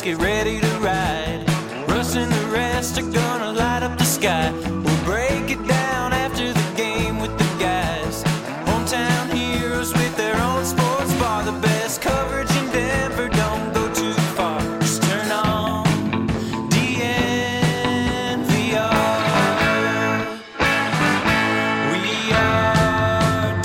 get ready to ride. Russ and the rest are gonna light up the sky. We'll break it down after the game with the guys. Hometown heroes with their own sports bar. The best coverage in Denver, don't go too far. Just turn on DNVR. We are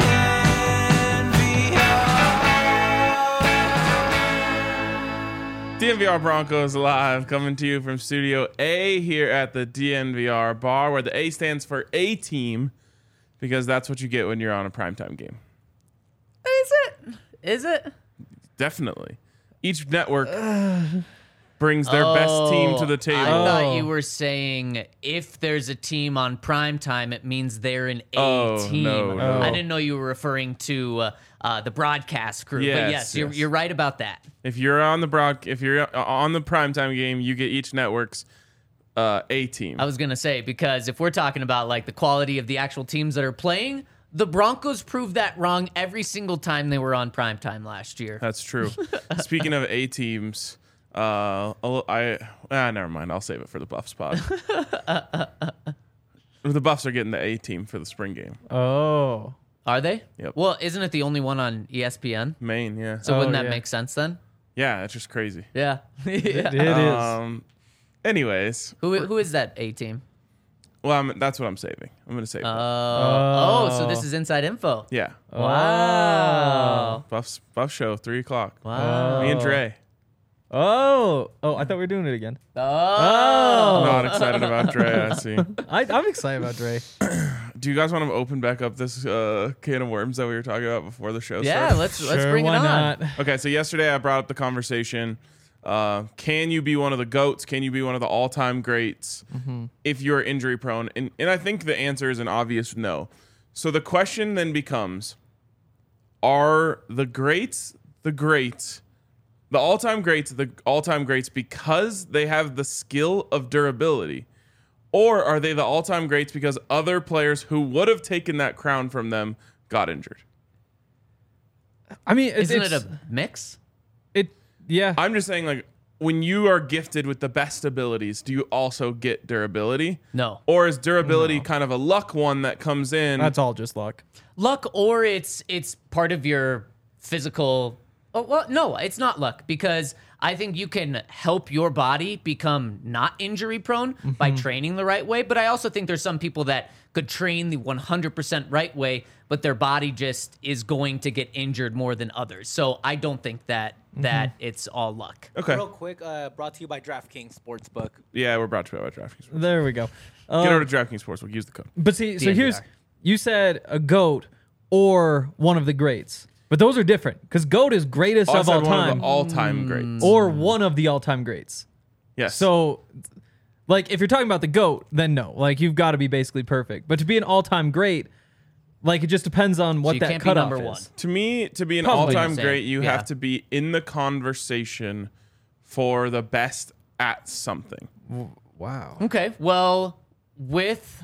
DNVR. DNVR Broncos Live, coming to you from Studio A here at the DNVR bar, where the A stands for A-Team, because that's what you get when you're on a primetime game. Is it? Definitely. Each network brings their best team to the table. I thought you were saying if there's a team on primetime, it means they're an A team. No. I didn't know you were referring to the broadcast crew. But yes, you're right about that. If you're on the primetime game, you get each network's A team. I was going to say, because if we're talking about like the quality of the actual teams that are playing, the Broncos proved that wrong every single time they were on primetime last year. That's true. Speaking of A teams, never mind. I'll save it for the Buffs pod. The Buffs are getting the A team for the spring game. Oh. Are they? Yep. Well, isn't it the only one on ESPN? Maine, yeah. So wouldn't that yeah. make sense then? Yeah, it's just crazy. Yeah. It is. Anyways, Who is that A team? well, that's what I'm saving. I'm going to save it. So this is inside info. Yeah. Wow. Buff show, 3 o'clock. Wow. Me and Dre. Oh, I thought we were doing it again. Oh. Not excited about Dre, I see. I'm excited about Dre. Do you guys want to open back up this can of worms that we were talking about before the show Yeah, started? let's Sure, bring it why on. not? Okay, so yesterday I brought up the conversation. Can you be one of the GOATs? Can you be one of the all-time greats if you're injury prone? And I think the answer is an obvious no. So the question then becomes, are the greats the greats, the all-time greats because they have the skill of durability? Or are they the all-time greats because other players who would have taken that crown from them got injured? I mean, Isn't it a mix? Yeah. I'm just saying, like, when you are gifted with the best abilities, do you also get durability? No. Or is durability kind of a luck one that comes in? That's all just luck. Luck, or it's part of your physical. Oh, well, no, it's not luck, because I think you can help your body become not injury prone by training the right way. But I also think there's some people that could train the 100% right way, but their body just is going to get injured more than others. So I don't think that it's all luck. Okay. Real quick, brought to you by DraftKings Sportsbook. Yeah, we're brought to you by DraftKings. There we go. Get over to DraftKings Sportsbook. Use the code. But see, so DNVR. you said a GOAT or one of the greats. But those are different, because GOAT is greatest I of said all one of time the all-time greats. or one of the all-time greats. Yes. So, like, if you're talking about the GOAT, then no. Like, you've got to be basically perfect. But to be an all-time great, like, it just depends on what you that can't be cutoff number is. one. to me, to be an Probably all-time the same. great, you Yeah. have to be in the conversation for the best at something. Wow. Okay, well, with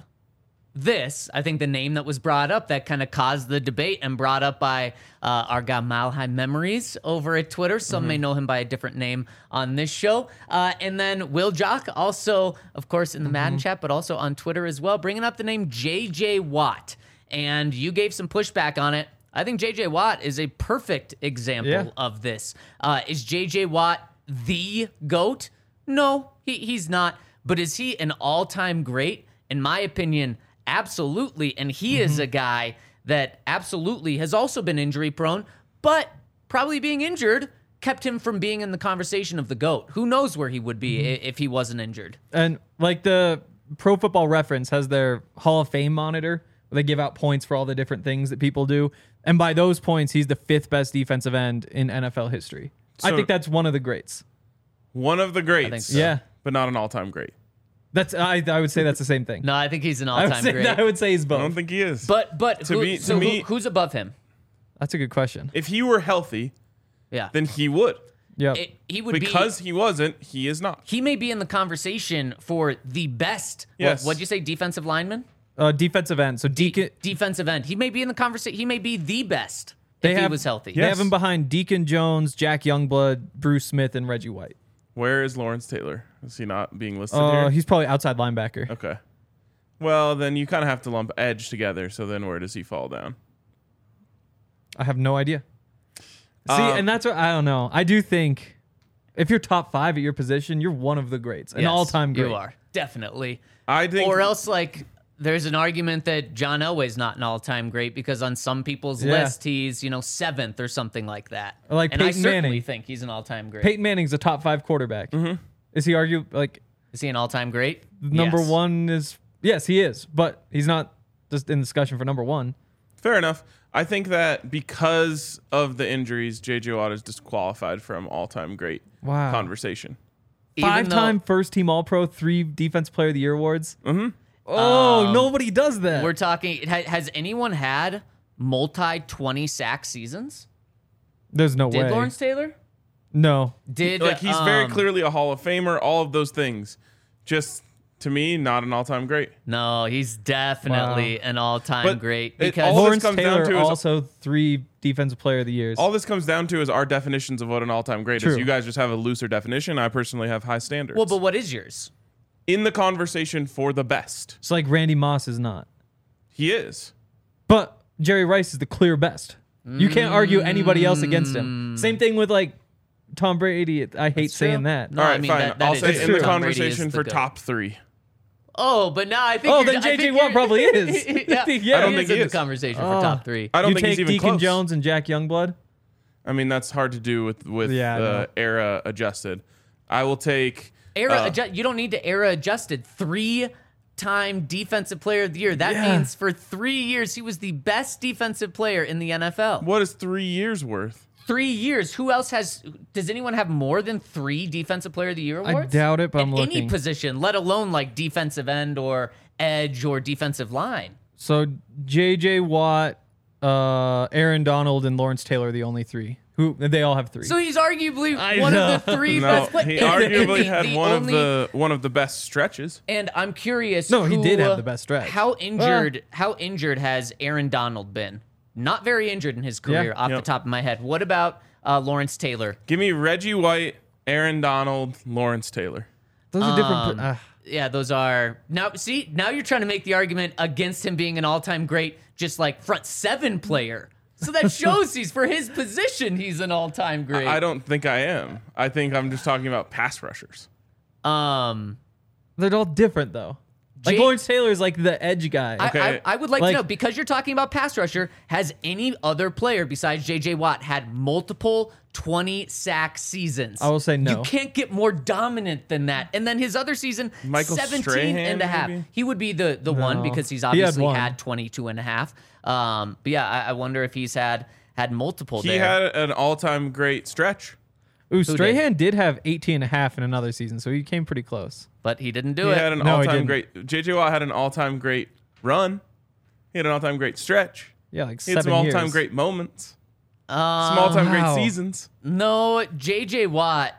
this, I think the name that was brought up that kind of caused the debate and brought up by our guy Malhai Memories over at Twitter. Some may know him by a different name on this show. And then Will Jock, also, of course, in the Madden chat, but also on Twitter as well, bringing up the name J.J. Watt. And you gave some pushback on it. I think J.J. Watt is a perfect example of this. Is J.J. Watt the GOAT? No, he's not. But is he an all-time great? In my opinion, absolutely. And he is a guy that absolutely has also been injury prone, but probably being injured kept him from being in the conversation of the GOAT. Who knows where he would be if he wasn't injured? And, like, the Pro Football Reference has their Hall of Fame monitor, where they give out points for all the different things that people do. And by those points, he's the 5th best defensive end in NFL history. I So- think that's one of the greats. One of the greats. think so. Yeah. But not an all-time great. I would say that's the same thing. No, I think he's an I would all-time say, great. I would say he's I both. don't think he is. But To me- who's above him? That's a good question. if he were healthy, Yeah. then he would. Yeah. He would Because he wasn't, he is not. he may be in the conversation for the best. Yes. What'd you say? Defensive lineman? Defensive end. So Deacon. Defensive end. He may be in the conversation. He may be the best They if he have- was healthy. They Yes. have him behind Deacon Jones, Jack Youngblood, Bruce Smith, and Reggie White. Where is Lawrence Taylor? Is he not being listed here? He's probably outside linebacker. Okay. Well, then you kind of have to lump edge together. So then where does he fall down? I have no idea. See, and that's what I don't know. I do think if you're top 5 at your position, you're one of the greats, an Yes, all-time great. You are definitely. I think. Or else, like, there's an argument that John Elway's not an all-time great because on some people's Yeah. list he's 7th or something like that. Or like and I Peyton certainly Manning. think he's an all-time great. Peyton Manning's a top 5 quarterback. Mm-hmm. Is he Is he an all-time great? number Yes. 1 is? Yes, he is, but he's not just in discussion for number 1. Fair enough. I think that because of the injuries, J.J. Watt is disqualified from all-time great Wow. conversation. Even 5-time first-team All-Pro, 3 Defense Player of the Year awards. Mm-hmm. Oh, nobody does that. We're talking. Has anyone had multi 20 sack seasons? There's no Did way. Lawrence Taylor? No. Did Like he's very clearly a Hall of Famer. All of those things, just to me, not an all-time great. No, he's definitely an all-time But great it because all- this Lawrence comes down Taylor to is- also 3 Defensive Player of the Years. All this comes down to is our definitions of what an all-time great is. True. You guys just have a looser definition. I personally have high standards. well, but what is yours? In the conversation for the best, It's like Randy Moss is not. he is. But Jerry Rice is the clear best. You can't argue anybody else against him. Same thing with like Tom Brady. I hate saying true. that. No, All right, I mean, fine. that I'll is say in true. the Tom Brady is conversation the for GOAT. top 3. Oh, but now I think. Oh, you're- then I think J.J. you're- Watt probably is. yeah, Yeah, I don't he think is he in is. the conversation for top 3. I don't you think he's take even Deacon close. Jones and Jack Youngblood. I mean, that's hard to do with Yeah, I know. era adjusted. I will take You don't need to era adjusted. 3-time defensive player of the year. That Yeah. means for 3 years he was the best defensive player in the NFL. what is 3 years worth? 3 years. Who else has? Does anyone have more than 3 defensive player of the year awards? doubt it, but in I'm any looking. position, let alone like defensive end or edge or defensive line. So J.J. Watt, Aaron Donald, and Lawrence Taylor are the only 3. Who they all have 3. So he's arguably I one know. of the 3 No, best players. he arguably had only- one of the best stretches. And I'm curious. No, he did who, have the best stretch. How injured has Aaron Donald been? Not very injured in his career, off the Yep. top of my head. What about Lawrence Taylor? Give me Reggie White, Aaron Donald, Lawrence Taylor. Those are different. Yeah, those are now. See, now you're trying to make the argument against him being an all-time great, just like front 7 player. So that shows for his position, he's an all-time great. I don't think I am. I think I'm just talking about pass rushers. They're all different though. Like Jake- Lawrence Taylor is like the edge guy. Okay. I would like Like- to know, because you're talking about pass rusher, has any other player besides J.J. Watt had multiple 20-sack seasons? I will say no. You can't get more dominant than that. And then his other season, Michael 17 Strahan, and a half. maybe? He would be the one because he's He had obviously one. had 22 and a half. But yeah, I wonder if he's had multiple He there. had an all-time great stretch. Ooh, Strahan did have 18 and a half in another season, so he came pretty close. But he didn't do He it. had an No, he all-time didn't. great. J.J. Watt had an all-time great run. He had an all-time great stretch. Yeah, like He had 7 some years. all-time great moments. Some all-time great wow. seasons. No, J.J. Watt.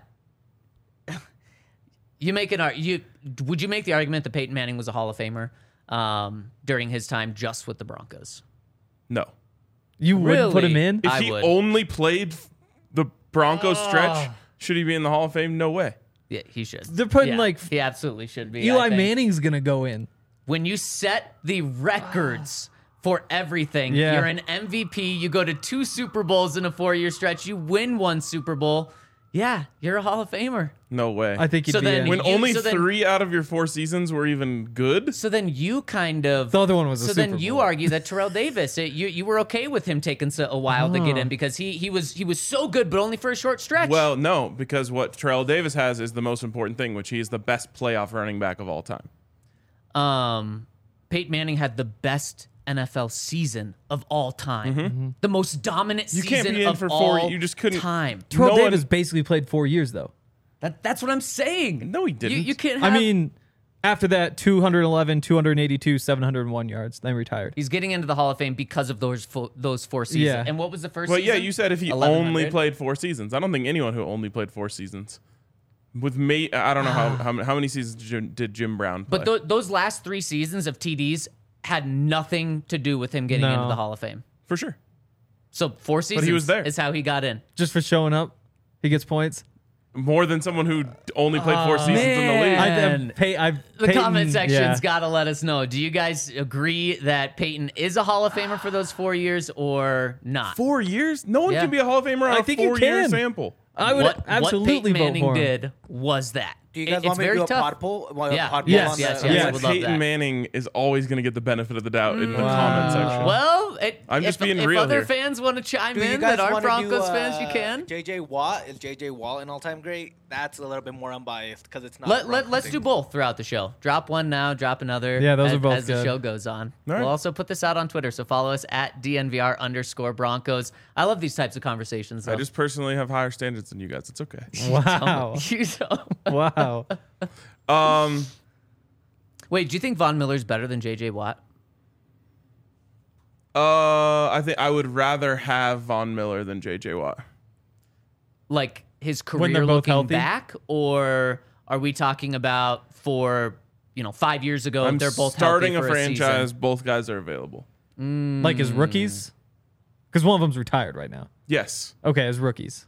Would you make the argument that Peyton Manning was a Hall of Famer during his time just with the Broncos? No. You wouldn't put him Really? in? If I he would. only played the Broncos stretch, should he be in the Hall of Fame? No way. Yeah, he should. They're putting, Yeah, like, he absolutely should be. I Eli think. Manning's gonna go in. When you set the records for everything, Yeah. you're an MVP. You go to 2 Super Bowls in a 4-year stretch. You win 1 Super Bowl. Yeah, you're a Hall of Famer. No way. I think he'd So be then in. when you- only so then- 3 out of your 4 seasons were even good. So then you kind of. The other one was a So Super then you Bowl. argue that Terrell Davis, you were okay with him taking a while to get in because he was so good, but only for a short stretch. Well, no, because what Terrell Davis has is the most important thing, which he is the best playoff running back of all time. Peyton Manning had the best NFL season of all time, the most dominant You season can't be in of for all 4. You just couldn't. time. Terrell no one- Davis basically played 4 years though. That's what I'm saying. No, he didn't. You can't. Have, I mean, after that, 211, 282, 701 yards, then retired. he's getting into the Hall of Fame because of those 4 seasons. Yeah. And what was the first? Well, season? yeah, you said if he 1100? only played 4 seasons. I don't think anyone who only played 4 seasons. With me, I don't know how many seasons did Jim Brown play. But those last 3 seasons of TDs had nothing to do with him getting No. into the Hall of Fame. For sure. So 4 seasons was there. is how he got in. Just for showing up, he gets points. More than someone who only played 4 seasons in the league. man. The Peyton, comment section's yeah. got to let us know. Do you guys agree that Peyton is a Hall of Famer for those 4 years or not? 4 years? No one Yeah. can be a Hall of Famer on I a think you 4-year can. sample. I would what absolutely Peyton vote Manning for him. did was that. Do you guys It's want me to very do a tough. pod poll? Yeah. Pod poll Yes, on yes, the- yes. Yeah, I would love Peyton that. Manning is always going to get the benefit of the doubt in the comment section. Well, I'm just being if real other here. fans want to chime Do you in guys that aren't wanna do, Broncos fans, you can. JJ Watt is JJ Watt an all-time great? That's a little bit more unbiased because it's not. Let's do both throughout the show. Drop one now, drop another. Yeah, those are both as the good. show goes on. All right. We'll also put this out on Twitter, so follow us at DNVR_Broncos. I love these types of conversations. Though. I just personally have higher standards than you guys. It's okay. Wow. You don't- Wow. Wait, do you think Von Miller's better than JJ Watt? I think I would rather have Von Miller than JJ Watt. Like his When they're career both looking healthy? back, or are we talking about for 5 years ago? I'm they're both starting healthy a for franchise. season? Both guys are available. Like as rookies? Because one of them's retired right now. Yes. Okay, as rookies.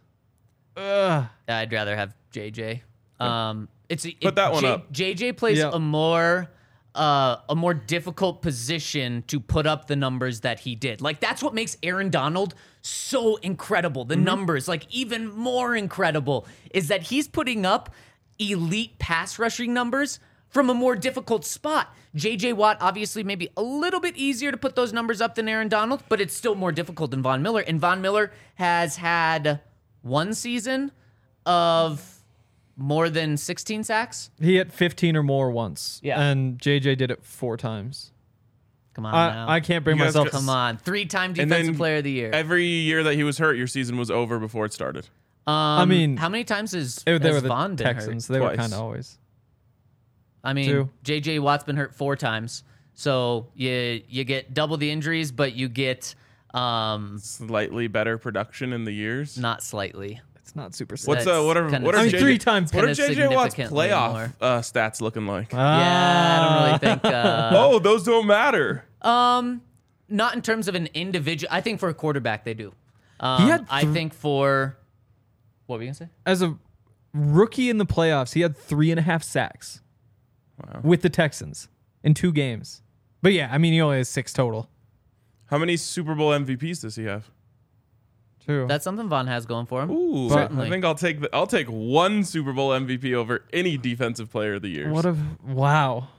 I'd rather have JJ. Put that one up. JJ plays Yeah. a more difficult position to put up the numbers that he did. Like that's what makes Aaron Donald so incredible. The numbers, like even more incredible, is that he's putting up elite pass rushing numbers from a more difficult spot. JJ Watt, obviously, maybe a little bit easier to put those numbers up than Aaron Donald, but it's still more difficult than Von Miller. And Von Miller has had one season of more than 16 sacks. He hit 15 or more once. Yeah. And JJ did it 4 times. Come on now. I can't bring You guys myself. just- Come on. 3-time And defensive then player of the year. Every year that he was hurt, your season was over before it started. I mean, how many times has they were the Von been Texans. hurt? They were Twice. kind of always. I mean, 2. JJ Watt's been hurt 4 times. So you get double the injuries, but you get Slightly better production in the years. not slightly. It's not super. What's That's what are kinda what are I mean, JJ 3 times. What are kinda JJ Watt's significantly playoff more. stats looking like? Yeah, I don't really think. Oh, those don't matter. Not in terms of an individual. I think for a quarterback they do. He had I think for what were you gonna say? As a rookie in the playoffs, he had 3.5 sacks with the Texans in 2 games. But yeah, I mean, he only has 6 total. How many Super Bowl MVPs does he have? True. That's something Von has going for him. Ooh, Certainly. I think I'll take one Super Bowl MVP over any defensive player of the year. Wow.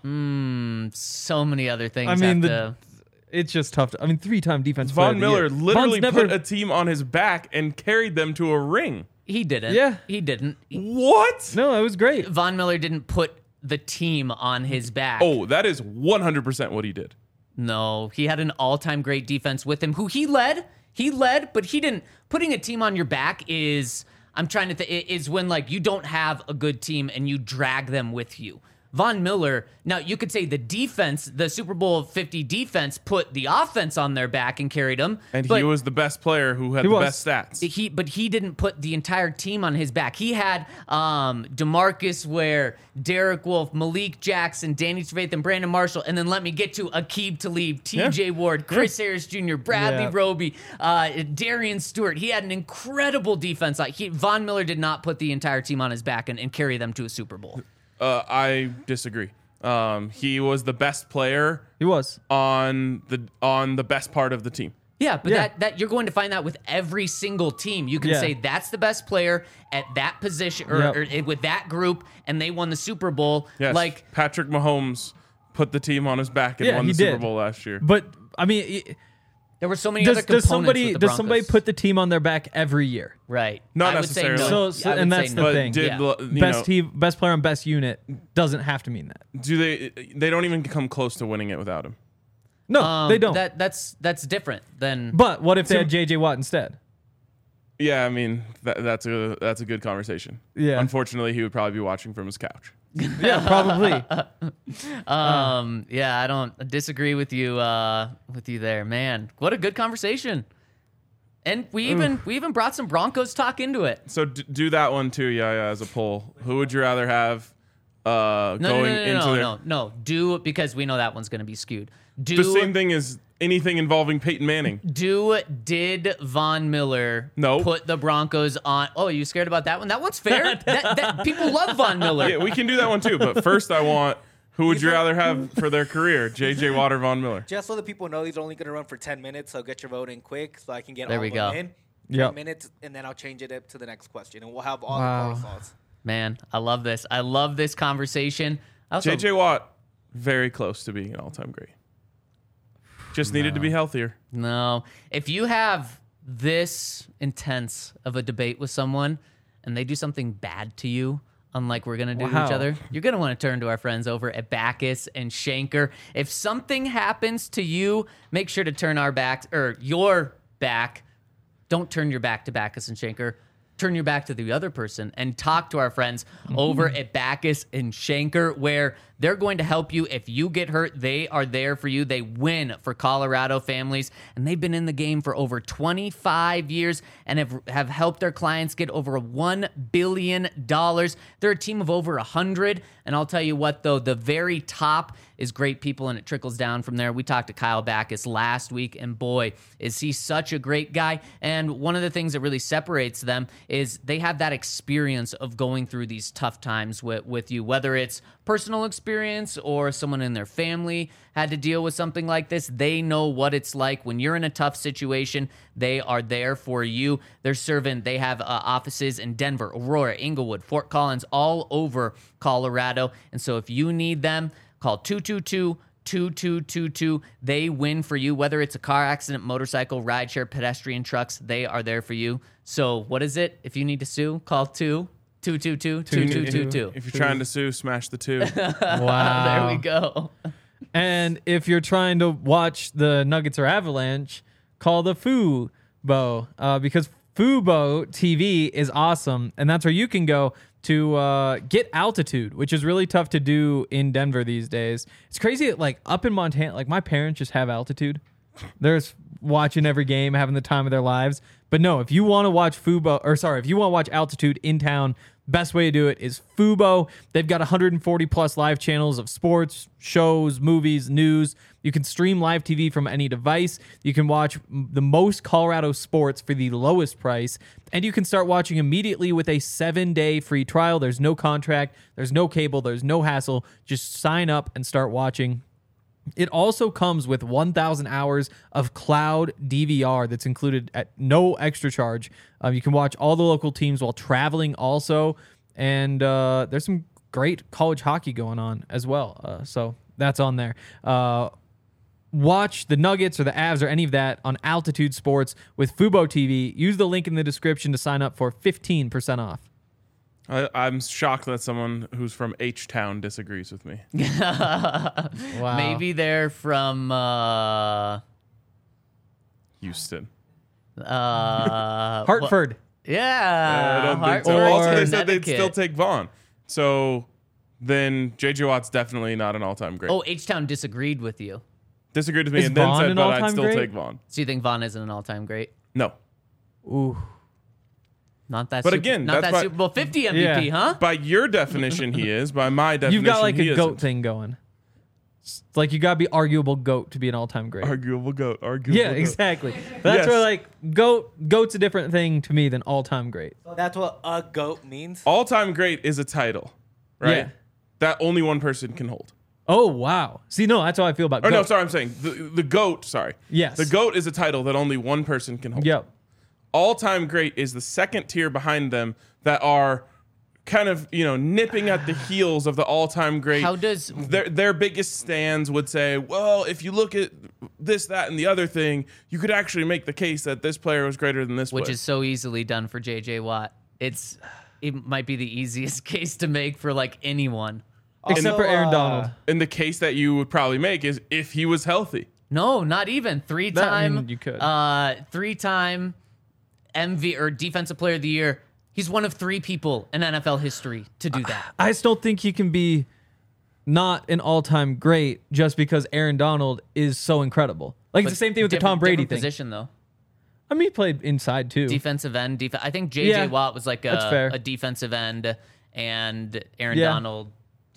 So many other things. I mean, have to, it's just tough. 3-time defense. player Von of the Miller year. literally Von's put a team on his back and carried them to a ring. he didn't. Yeah. he didn't. What? No, it was great. Von Miller didn't put the team on his back. Oh, that is 100% what he did. No, he had an all-time great defense with him, who he led. He led, but he didn't. Putting a team on your back is, I'm trying to think, is when like you don't have a good team and you drag them with you. Von Miller, now you could say the defense, the Super Bowl 50 defense, put the offense on their back and carried them. And but he was the best player who had He the was. best stats. But he didn't put the entire team on his back. He had DeMarcus Ware, Derek Wolfe, Malik Jackson, Danny Trevathan, Brandon Marshall, and then let me get to Aqib Talib, TJ Ward, Chris Harris Jr., Bradley Yeah. Roby, Darian Stewart. He had an incredible defense. Von Miller did not put the entire team on his back and carry them to a Super Bowl. I disagree. He was the best player He was. on the best part of the team. Yeah, but Yeah. that you're going to find that with every single team. You can Yeah. say that's the best player at that position or with that group, and they won the Super Bowl. Yes, Like, Patrick Mahomes put the team on his back and Yeah, won he the Super did. Bowl last year. But I mean, there were so many other does components somebody with the does somebody Broncos. put the team on their back every year? Right. Not I would say necessarily. no. So- I would and say that's the no. but thing. did Yeah. you Best know, team, best player on best unit doesn't have to mean that. do they don't even come close to winning it without him? No, they don't. That's different than. But what if they had JJ Watt instead? Yeah, I mean that's a good conversation. Yeah. Unfortunately, he would probably be watching from his couch. Yeah, probably. Yeah, I don't disagree with you there, man. What a good conversation. And we even brought some Broncos talk into it. So do that one too, yeah, as a poll. Who would you rather have? No. Do, because we know that one's going to be skewed. The same thing as anything involving Peyton Manning. Did Von Miller put the Broncos on? Oh, you scared about that one? That one's fair. that people love Von Miller. Yeah, we can do that one too. But first, I want who would you rather have for their career, J.J. Watt or Von Miller? Just so the people know, he's only going to run for 10 minutes, so get your vote in quick so I can get There all we of them go. in. 10 minutes, and then I'll change it up to the next question, and we'll have all the close thoughts. Man, I love this. I love this conversation. J.J. Watt, very close to being an all-time great. Just needed to be healthier. No. If you have this intense of a debate with someone and they do something bad to you, unlike we're going to do to each other, you're going to want to turn to our friends over at Backus and Schenker. If something happens to you, make sure to turn our back, or your back. Don't turn your back to Backus and Schenker. Turn your back to the other person and talk to our friends over at Backus and Schenker, where they're going to help you. If you get hurt, they are there for you. They win for Colorado families, and they've been in the game for over 25 years and have helped their clients get over $1 billion. They're a team of over 100, and I'll tell you what, though, the very top is great people, and it trickles down from there. We talked to Kyle Backus last week, and boy, is he such a great guy. And one of the things that really separates them is they have that experience of going through these tough times with you, whether it's personal experience or someone in their family had to deal with something like this. They know what it's like when you're in a tough situation. They are there for you. They have offices in Denver, Aurora, Inglewood, Fort Collins, all over Colorado. And so if you need them, call 222-2222. They win for you, whether it's a car accident, motorcycle, rideshare, pedestrian, trucks. They are there for you. So what is it? If you need to sue, call 222-2222. If you're trying to sue, smash the 2. Wow. There we go. And if you're trying to watch the Nuggets or Avalanche, call the Fubo, because Fubo TV is awesome, and that's where you can go to get altitude, which is really tough to do in Denver these days. It's crazy that, like, up in Montana, like, my parents just have altitude. They're just watching every game, having the time of their lives. But no, if you want to watch if you want to watch altitude in town, best way to do it is Fubo. They've got 140 plus live channels of sports, shows, movies, news. You can stream live TV from any device. You can watch the most Colorado sports for the lowest price. And you can start watching immediately with a 7-day free trial. There's no contract. There's no cable. There's no hassle. Just sign up and start watching. It also comes with 1,000 hours of cloud DVR that's included at no extra charge. You can watch all the local teams while traveling also. And there's some great college hockey going on as well. So that's on there. Watch the Nuggets or the Avs or any of that on Altitude Sports with Fubo TV. Use the link in the description to sign up for 15% off. I'm shocked that someone who's from H-Town disagrees with me. Wow. Maybe they're from Houston. Hartford. Yeah. I don't think so. Hartford, Also, they said they'd Connecticut. still take Vaughn. So then J.J. Watt's definitely not an all-time great. Oh, H-Town disagreed with you. Disagreed with me Is and then Vaughn said, an but all-time I'd still great? take Vaughn. So you think Vaughn isn't an all-time great? No. Ooh. Not that. But again, not that's that why- Super Bowl 50 MVP, Yeah. huh? By your definition, he is. By my definition, You've got like he a goat isn't. thing going. It's like you got to be arguable GOAT to be an all-time great. Arguable goat. Arguable Yeah, goat. exactly. That's Yes. where like GOAT's a different thing to me than all-time great. That's what a GOAT means. All-time great is a title, right? Yeah. That only one person can hold. Oh wow. See, no, that's how I feel about Or GOAT. no, sorry, I'm saying the GOAT, sorry. Yes. The GOAT is a title that only one person can hold. Yep. All-time great is the second tier behind them that are kind of, nipping at the heels of the all-time great. How does- their biggest stands would say, well, if you look at this, that, and the other thing, you could actually make the case that this player was greater than this Which player. is so easily done for J.J. Watt. It might be the easiest case to make for like anyone. Except for Aaron Donald. And the case that you would probably make is if he was healthy. No, not even. Three-time you could. Three-time MV or Defensive Player of the Year. He's one of 3 people in NFL history to do that. I still think he can be not an all-time great just because Aaron Donald is so incredible. Like it's the same thing with the Tom Brady different thing. Position though. I mean, he played inside too. Defensive end. I think J.J. Yeah, Watt was like that's fair. a defensive end, and Aaron Yeah. Donald.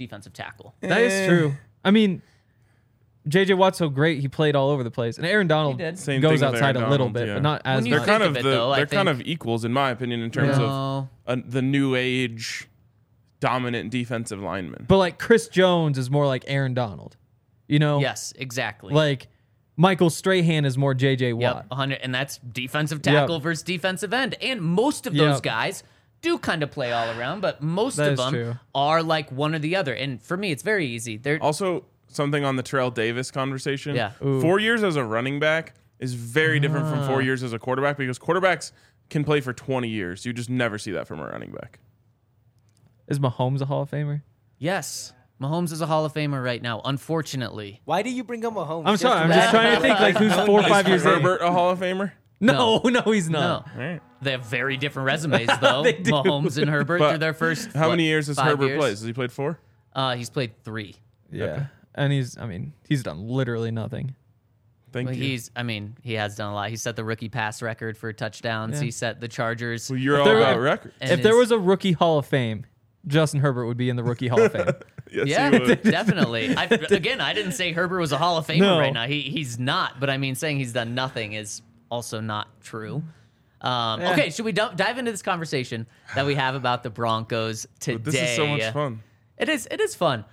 defensive tackle. That is true. I mean, J.J. Watt's so great; he played all over the place, and Aaron Donald did. Same goes thing with outside Aaron a little Donald, bit, yeah. but not as When you much. They're think kind of of it, though, I they're kind think- of equals in my opinion in terms No. of the new age dominant defensive lineman. But like Chris Jones is more like Aaron Donald, you know? Yes, exactly. Like Michael Strahan is more J.J. Watt. Yep, 100, and that's defensive tackle Yep. versus defensive end. And most of those Yep. guys do kind of play all around, but most That of is them true. are like one or the other. And for me, it's very easy. They're Also, something on the Terrell Davis conversation. Yeah. 4 years as a running back is very different from Ah. 4 years as a quarterback because quarterbacks can play for 20 years. You just never see that from a running back. Is Mahomes a Hall of Famer? yes, Mahomes is a Hall of Famer right now. Unfortunately, Why do you bring up Mahomes? I'm sorry. I'm just trying to think like who's 4 or 5 years in. Herbert a Hall of Famer? No, he's no. not. All right. They have very different resumes, though. They do. Mahomes and Herbert But through their first. How what, many years has 5 Herbert years? played? Has he played 4? He's played 3. Yeah. Okay. And he's done literally nothing. Thank Well, you. he has done a lot. He set the rookie pass record for touchdowns. Yeah. He set the Chargers. Well, you're all there about were- records. and If there his- was a rookie Hall of Fame, Justin Herbert would be in the rookie Hall of Fame. Yes, Yeah, he would. definitely. I didn't say Herbert was a Hall of Famer No. right now. He's not. But I mean, saying he's done nothing is also not true. Okay, should we dive into this conversation that we have about the Broncos today? But this is so much fun. It is fun.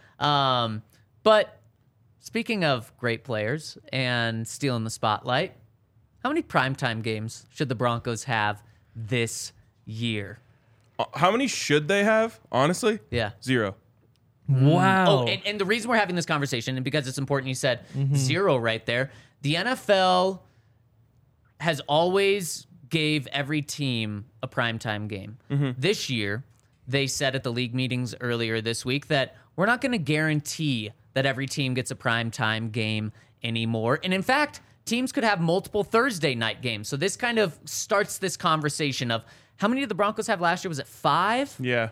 But speaking of great players and stealing the spotlight, how many primetime games should the Broncos have this year? How many should they have? Honestly? Yeah. 0. Wow. Oh, and the reason we're having this conversation, and because it's important, you said 0 right there. The NFL has always gave every team a primetime game. This year, they said at the league meetings earlier this week that we're not going to guarantee that every team gets a primetime game anymore. And in fact, teams could have multiple Thursday night games. So this kind of starts this conversation of how many did the Broncos have last year? Was it 5? Yeah.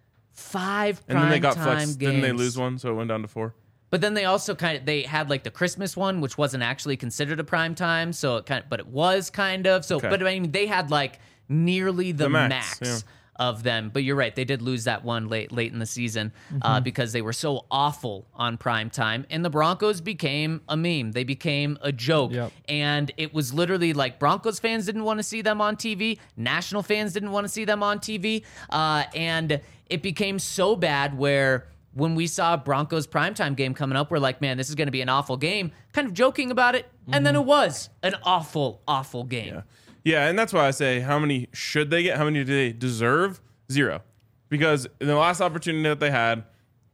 5 And then they got primetime flexed. games. Didn't they lose one? So it went down to 4. But then they also they had like the Christmas one, which wasn't actually considered a prime time, so but it was kind of. So, Okay. but I mean, they had like nearly the max yeah. of them. But you're right, they did lose that one late in the season because they were so awful on prime time, and the Broncos became a meme. They became a joke, Yep. and it was literally like Broncos fans didn't want to see them on TV, national fans didn't want to see them on TV, and it became so bad where when we saw a Broncos primetime game coming up, we're like, man, this is going to be an awful game, kind of joking about it. And then it was an awful, awful game. Yeah. Yeah, and that's why I say how many should they get? How many do they deserve? 0. Because in the last opportunity that they had,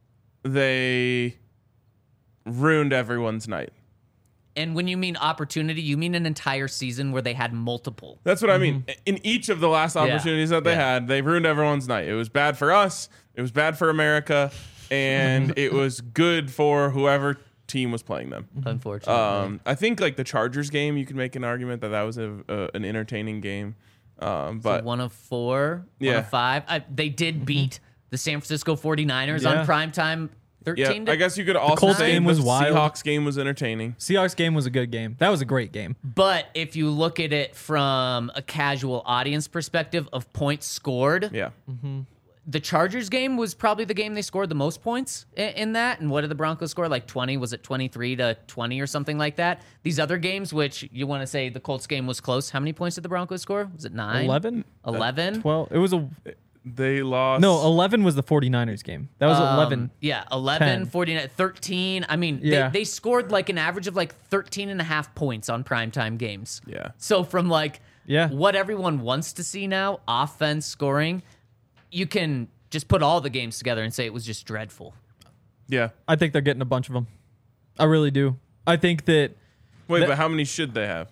they ruined everyone's night. And when you mean opportunity, you mean an entire season where they had multiple. That's what I mean. In each of the last opportunities that they Yeah. had, they ruined everyone's night. It was bad for us. It was bad for America. And it was good for whoever team was playing them. Unfortunately. I think like the Chargers game, you could make an argument that was an entertaining game. But One of 4, one Yeah. of 5. They did beat the San Francisco 49ers Yeah. on primetime 13 yeah, I guess you could also Colts say game the was wild. Seahawks game was entertaining. Seahawks game was a good game. That was a great game. But if you look at it from a casual audience perspective of points scored, Yeah. the Chargers game was probably the game they scored the most points in that. And what did the Broncos score? Like 20? Was it 23-20 or something like that? These other games, which you want to say the Colts game was close. How many points did the Broncos score? Was it 9? 11? 11? 12. It was a They lost. no. 11 was the 49ers game. That was 11. Yeah, 11, 10. 49, 13. I mean, Yeah. they scored like an average of like 13 and a half points on primetime games. Yeah. So from like Yeah. what everyone wants to see now, offense scoring, you can just put all the games together and say it was just dreadful. Yeah. I think they're getting a bunch of them. I really do. I think that. Wait, That- but how many should they have?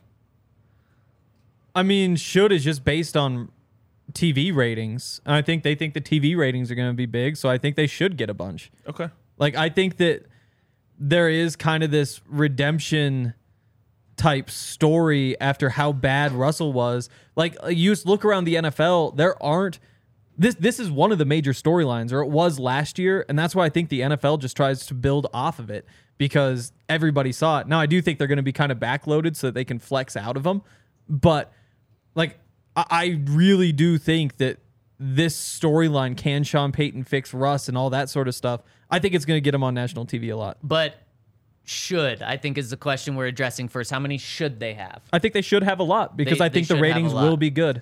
I mean, should is just based on TV ratings. And I think they think the TV ratings are going to be big, so I think they should get a bunch. Okay. Like, I think that there is kind of this redemption type story after how bad Russell was. Like, you just look around the NFL, there aren't. This is one of the major storylines, or it was last year, and that's why I think the NFL just tries to build off of it because everybody saw it. Now, I do think they're going to be kind of backloaded so that they can flex out of them, but like I really do think that this storyline, can Sean Payton fix Russ and all that sort of stuff, I think it's going to get him on national TV a lot. But should, I think, is the question we're addressing first. How many should they have? I think they should have a lot because I think the should have ratings a lot. will be good.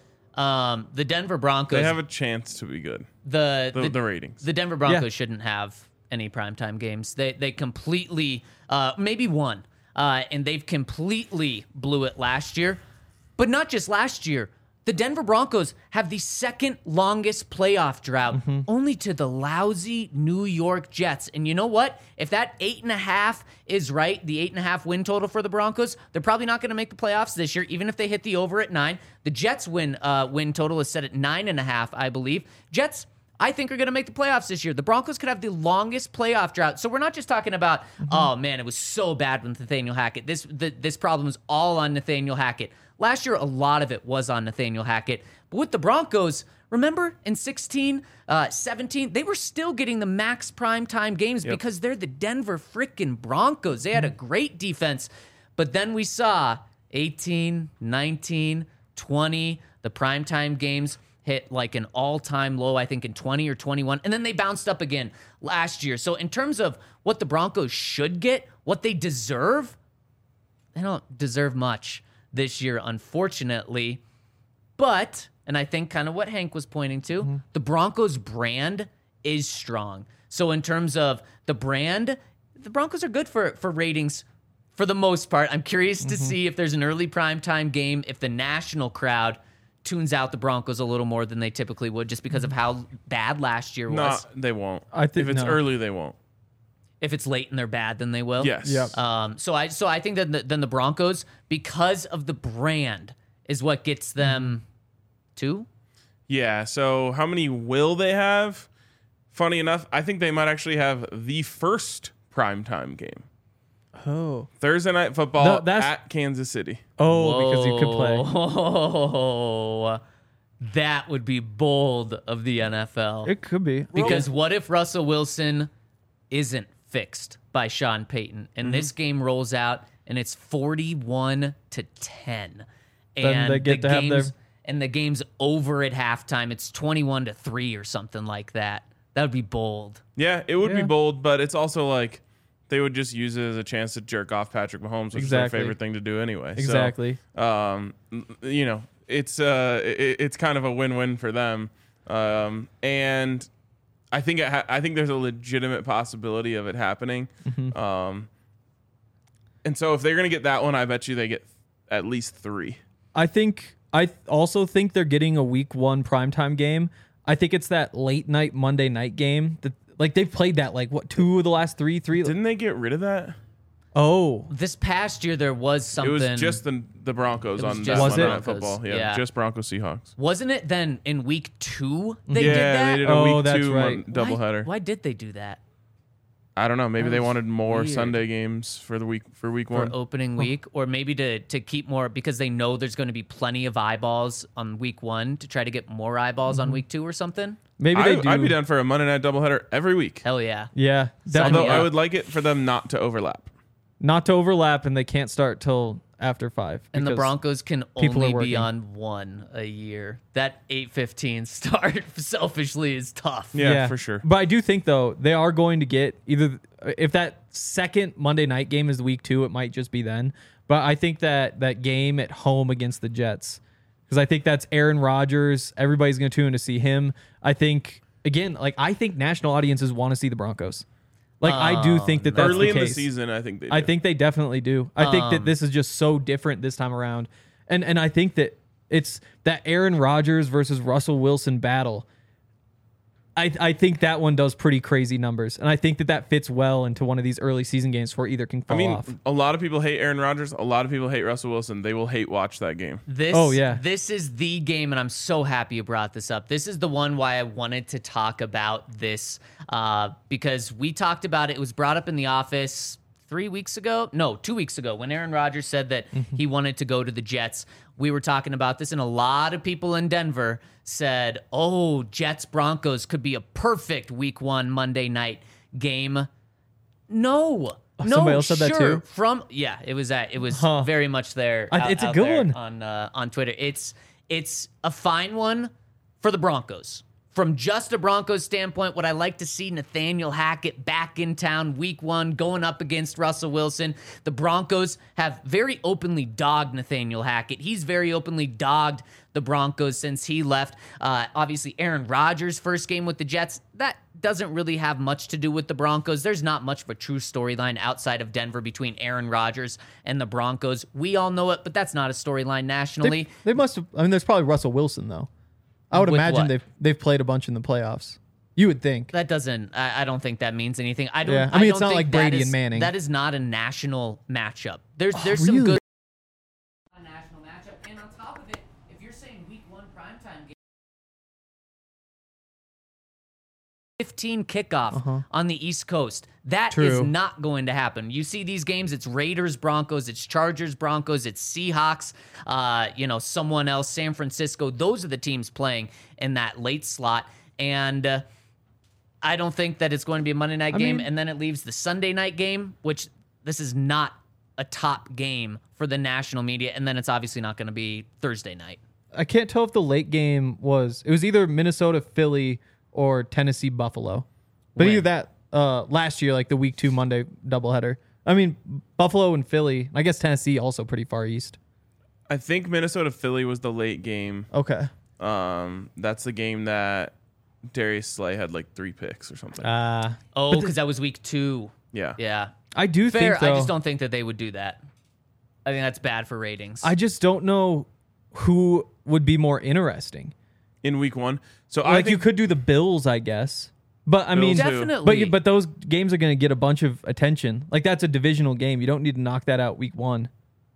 The Denver Broncos. They have a chance to be good. the ratings. The Denver Broncos Yeah. shouldn't have any primetime games. They completely, maybe one, and they've completely blew it last year. But not just last year. The Denver Broncos have the second longest playoff drought, only to the lousy New York Jets. And you know what? If that 8.5 is right, the 8.5 win total for the Broncos, they're probably not going to make the playoffs this year, even if they hit the over at 9. The Jets win total is set at 9.5, I believe. Jets, I think, are going to make the playoffs this year. The Broncos could have the longest playoff drought. So we're not just talking about, oh man, it was so bad with Nathaniel Hackett. This problem is all on Nathaniel Hackett. Last year, a lot of it was on Nathaniel Hackett. But with the Broncos, remember in 16, 17, they were still getting the max primetime games because they're the Denver freaking Broncos. They had a great defense. But then we saw 18, 19, 20, the primetime games hit like an all-time low, I think, in 20 or 21. And then they bounced up again last year. So in terms of what the Broncos should get, what they deserve, they don't deserve much this year, unfortunately. But, and I think kind of what Hank was pointing to, the Broncos brand is strong. So in terms of the brand, the Broncos are good for ratings for the most part. I'm curious to see if there's an early primetime game, if the national crowd tunes out the Broncos a little more than they typically would just because of how bad last year was. No, they won't. I think- if it's no. early, they won't. If it's late and they're bad, then they will. Yes. Yep. So I think that then the Broncos, because of the brand, is what gets them 2. Yeah. So how many will they have? Funny enough, I think they might actually have the first primetime game. Oh. Thursday Night Football No, that's- at Kansas City. Oh, because you could play. Oh, that would be bold of the NFL. It could be. Because what if Russell Wilson isn't fixed by Sean Payton and this game rolls out and it's 41-10, Then and they get the to have game's their- and the game's over at halftime, it's 21-3 or something like that. That would be bold. Yeah, it would be Yeah. bold, but it's also like they would just use it as a chance to jerk off Patrick Mahomes, which is their Exactly. favorite thing to do anyway. Exactly. So, it's kind of a win-win for them, and I think I think there's a legitimate possibility of it happening. And so if they're gonna get that one, I bet you they get at least 3. I also think they're getting a week 1 primetime game. I think it's that late night Monday night game that like they've played that like what 2 of the last 3. Didn't they get rid of that? Oh, This past year, there was something. It was just the Broncos It was on just that Was Monday it? Night Football. Yeah, Yeah. just Broncos Seahawks. Wasn't it then in week 2 they did Yeah, that? they did a Oh, week that's 2 right. doubleheader. Why did they do that? I don't know. Maybe That they was wanted more weird. Sunday games for week For 1. opening week, or maybe to keep more because they know there's going to be plenty of eyeballs on week 1 to try to get more eyeballs on week 2 or something. maybe they do. I'd be down for a Monday night doubleheader every week. Hell yeah. Yeah, Sign definitely. me Although I up. would like it for them not to overlap. Not to overlap, and they can't start till after 5. And the because Broncos can people are only be working. on 1 a year. That 8:15 start selfishly is tough. Yeah, for sure. But I do think though they are going to get either if that second Monday night game is week 2, it might just be then. But I think that game at home against the Jets, because I think that's Aaron Rodgers. Everybody's going to tune in to see him. I think again, like I think national audiences want to see the Broncos. Like I do think that that's Early the in the case. season, I think they do. I think they definitely do. I think that this is just so different this time around. And I think that it's that Aaron Rodgers versus Russell Wilson battle. I think that one does pretty crazy numbers. And I think that fits well into one of these early season games where either can fall off. a lot of people hate Aaron Rodgers. A lot of people hate Russell Wilson. They will hate watch that game. Oh, yeah. This is the game, and I'm so happy you brought this up. This is the one why I wanted to talk about this because we talked about it. It was brought up in the office 2 weeks ago, when Aaron Rodgers said that he wanted to go to the Jets. We were talking about this, and a lot of people in Denver said, oh, Jets Broncos could be a perfect week 1 Monday night game. No. Somebody else said that too? It was Huh. very much there. It's a out good there one. on Twitter. It's a fine one for the Broncos. From just a Broncos standpoint, would I like to see Nathaniel Hackett back in town week 1 going up against Russell Wilson? The Broncos have very openly dogged Nathaniel Hackett. He's very openly dogged the Broncos since he left. Obviously, Aaron Rodgers' first game with the Jets, that doesn't really have much to do with the Broncos. There's not much of a true storyline outside of Denver between Aaron Rodgers and the Broncos. We all know it, but that's not a storyline nationally. They must have. I mean, there's probably Russell Wilson though. I would With imagine what? they've played a bunch in the playoffs. You would think. That doesn't. I don't think that means anything. I don't. Yeah, I mean, it's don't not think like that Brady is- and Manning. That is not a national matchup. There's some really? good national matchup, and on top of it, if you're saying week 1 primetime game, 15 kickoff on the East Coast. That is True. not going to happen. You see these games, it's Raiders, Broncos, it's Chargers, Broncos, it's Seahawks, someone else, San Francisco. Those are the teams playing in that late slot. And I don't think that it's going to be a Monday night game. mean- And then it leaves the Sunday night game, which this is not a top game for the national media. And then it's obviously not going to be Thursday night. I can't tell if the late game was. It was either Minnesota, Philly, or Tennessee, Buffalo. But When? either that last year, like the week 2 Monday doubleheader. I mean, Buffalo and Philly. I guess Tennessee also pretty far east. I think Minnesota Philly was the late game. Okay. That's the game that Darius Slay had like 3 picks or something. Oh, because that was week 2. Yeah. Yeah. I do Fair. think though. I just don't think that they would do that. I think that's bad for ratings. I just don't know who would be more interesting. In week 1. So I Like think you could do the Bills, I guess. But I mean, Bills, Definitely. but those games are going to get a bunch of attention. Like that's a divisional game. You don't need to knock that out week 1.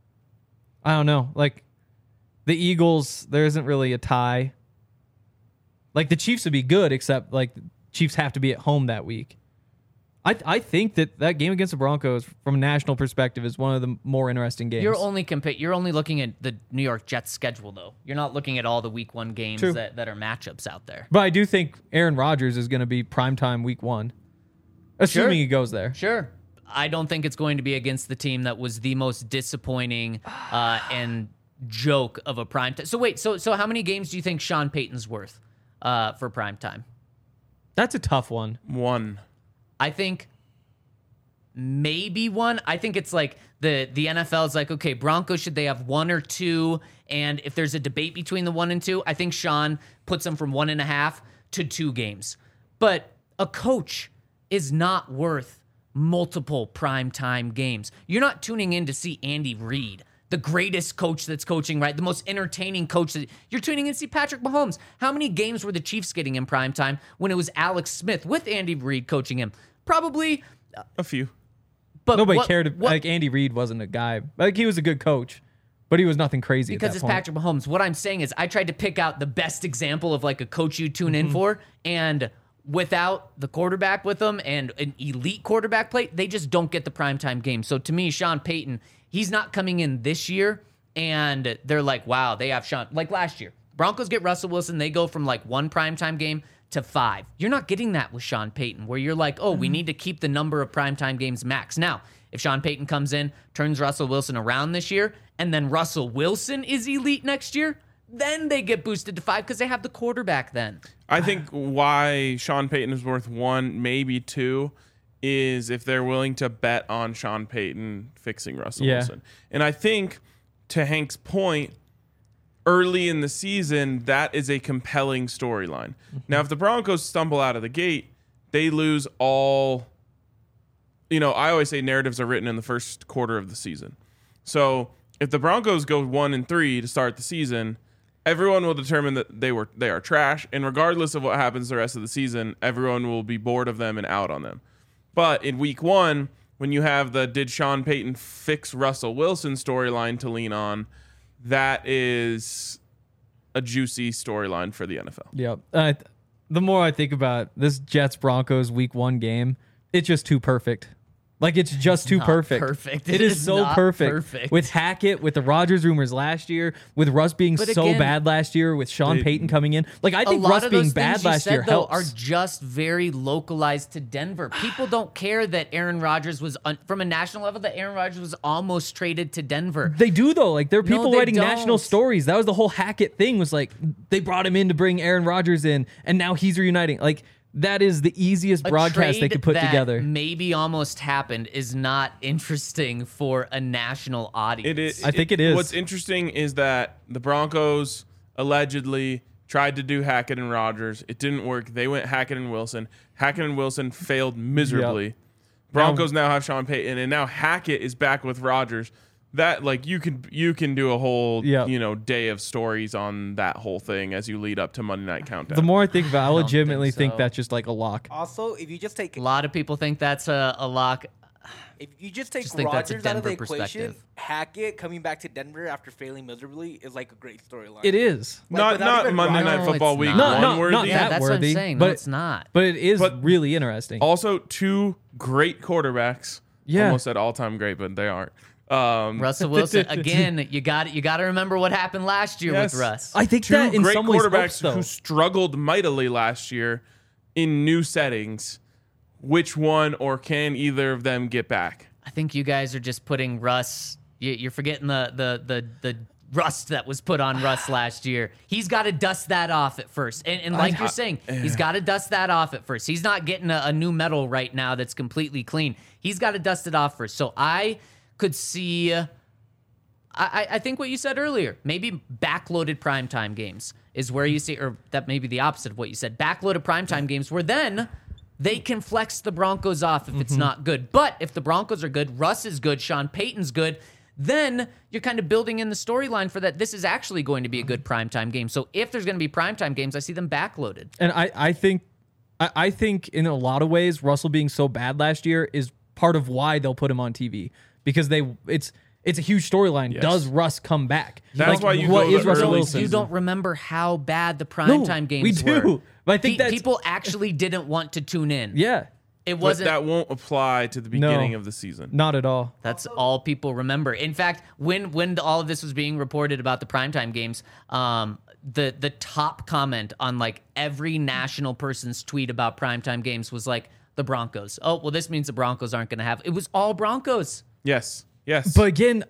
I don't know. Like the Eagles, there isn't really a tie. Like the Chiefs would be good, except like the Chiefs have to be at home that week. I think that game against the Broncos, from a national perspective, is one of the more interesting games. You're only looking at the New York Jets schedule, though. You're not looking at all the week 1 games True. that are matchups out there. But I do think Aaron Rodgers is going to be primetime week 1, assuming Sure. he goes there. Sure. I don't think it's going to be against the team that was the most disappointing and joke of a prime time. So wait, so how many games do you think Sean Payton's worth for prime time? That's a tough one. 1. I think maybe 1. I think it's like the NFL is like, okay, Broncos, should they have 1 or 2? And if there's a debate between the 1 and 2, I think Sean puts them from 1.5 to 2 games. But a coach is not worth multiple primetime games. You're not tuning in to see Andy Reid, the greatest coach that's coaching, right? The most entertaining coach. You're tuning in to see Patrick Mahomes. How many games were the Chiefs getting in primetime when it was Alex Smith with Andy Reid coaching him? Probably. A few. But Nobody what- cared. what- Like Andy Reid wasn't a guy. Like he was a good coach, but he was nothing crazy. because at it's that point. Patrick Mahomes. What I'm saying is I tried to pick out the best example of like a coach you tune Mm-hmm. in for, and without the quarterback with them and an elite quarterback play, they just don't get the primetime game. So to me, Sean Payton, he's not coming in this year, and they're like, wow, they have Sean. Like last year, Broncos get Russell Wilson. They go from like 1 primetime game to 5. You're not getting that with Sean Payton, where you're like, oh, we need to keep the number of primetime games max. Now, if Sean Payton comes in, turns Russell Wilson around this year, and then Russell Wilson is elite next year, then they get boosted to 5 because they have the quarterback then. I think why Sean Payton is worth 1, maybe 2, is if they're willing to bet on Sean Payton fixing Russell Yeah. Wilson. And I think, to Hank's point, early in the season, that is a compelling storyline. Now, if the Broncos stumble out of the gate, they lose all. I always say narratives are written in the first quarter of the season. So if the Broncos go 1-3 to start the season, everyone will determine that they are trash, and regardless of what happens the rest of the season, everyone will be bored of them and out on them. But in week 1, when you have the did Sean Payton fix Russell Wilson storyline to lean on, that is a juicy storyline for the NFL. Yep. The more I think about this Jets Broncos week 1 game, it's just too perfect. Like it's just too not perfect. perfect. It It is is so not perfect. perfect. With Hackett, with the Rodgers rumors last year, with Russ being But so again, bad last year, with Sean Payton coming in. Like I think a lot Russ of being those bad things you last said, year though, helps. are just very localized to Denver. People don't care that Aaron Rodgers was from a national level. That Aaron Rodgers was almost traded to Denver. They do though. Like there are No, people they writing national don't. stories. That was the whole Hackett thing. Was like they brought him in to bring Aaron Rodgers in, and now he's reuniting. Like that is the easiest A broadcast they trade could put that together. Maybe almost happened is not interesting for a national audience. It is. I think it is. What's interesting is that the Broncos allegedly tried to do Hackett and Rodgers. It didn't work. They went Hackett and Wilson. Hackett and Wilson failed miserably. Broncos now have Sean Payton, and now Hackett is back with Rodgers. That like you can do a whole Yep. day of stories on that whole thing as you lead up to Monday Night Countdown. The more I think about it, I don't legitimately think think so. that's just like a lock. Also, if you just take a lot of people think that's a lock. if you just take Just think that's a Rodgers out of the Denver equation, perspective. Hackett coming back to Denver after failing miserably is like a great storyline. It is. Like, not without even Monday Night No, Football it's Week not. one Not worthy. Yeah, that that's worthy, what I'm saying. but No, it's not. But it is But really interesting. Also, two great quarterbacks. Yeah. Almost said all-time great, but they aren't. Russell Wilson again. You got to remember what happened last year Yes. with Russ. I think Two that in great some ways quarterbacks helps, though. who struggled mightily last year in new settings. Which one, or can either of them get back? I think you guys are just putting Russ. You're forgetting the rust that was put on Russ last year. He's got to dust that off at first. And like you're saying, he's got to dust that off at first. He's not getting a new metal right now that's completely clean. He's got to dust it off first. So I could see. I think what you said earlier, maybe backloaded primetime games is where you see, or that may be the opposite of what you said. Backloaded primetime games where then they can flex the Broncos off if it's not good. But if the Broncos are good, Russ is good, Sean Payton's good, then you're kind of building in the storyline for that. This is actually going to be a good primetime game. So if there's going to be primetime games, I see them backloaded. And I think in a lot of ways, Russell being so bad last year is part of why they'll put him on TV because it's a huge storyline. Yes. Does Russ come back? That's why you what go the is Russell early Wilson? You don't remember how bad the primetime games we do. were. But I think that's people actually didn't want to tune in. yeah, It But wasn't. that won't apply to the beginning of the season. not at all. That's all people remember. In fact, when all of this was being reported about the primetime games, the top comment on like every national person's tweet about primetime games was like the Broncos. Oh, well, this means the Broncos aren't going to have. It was all Broncos. Yes. But again,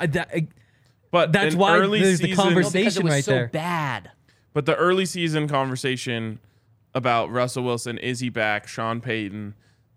But that's an why early there's the season- conversation. Because it was right so there. bad. But the early season conversation about Russell Wilson, is he back, Sean Payton,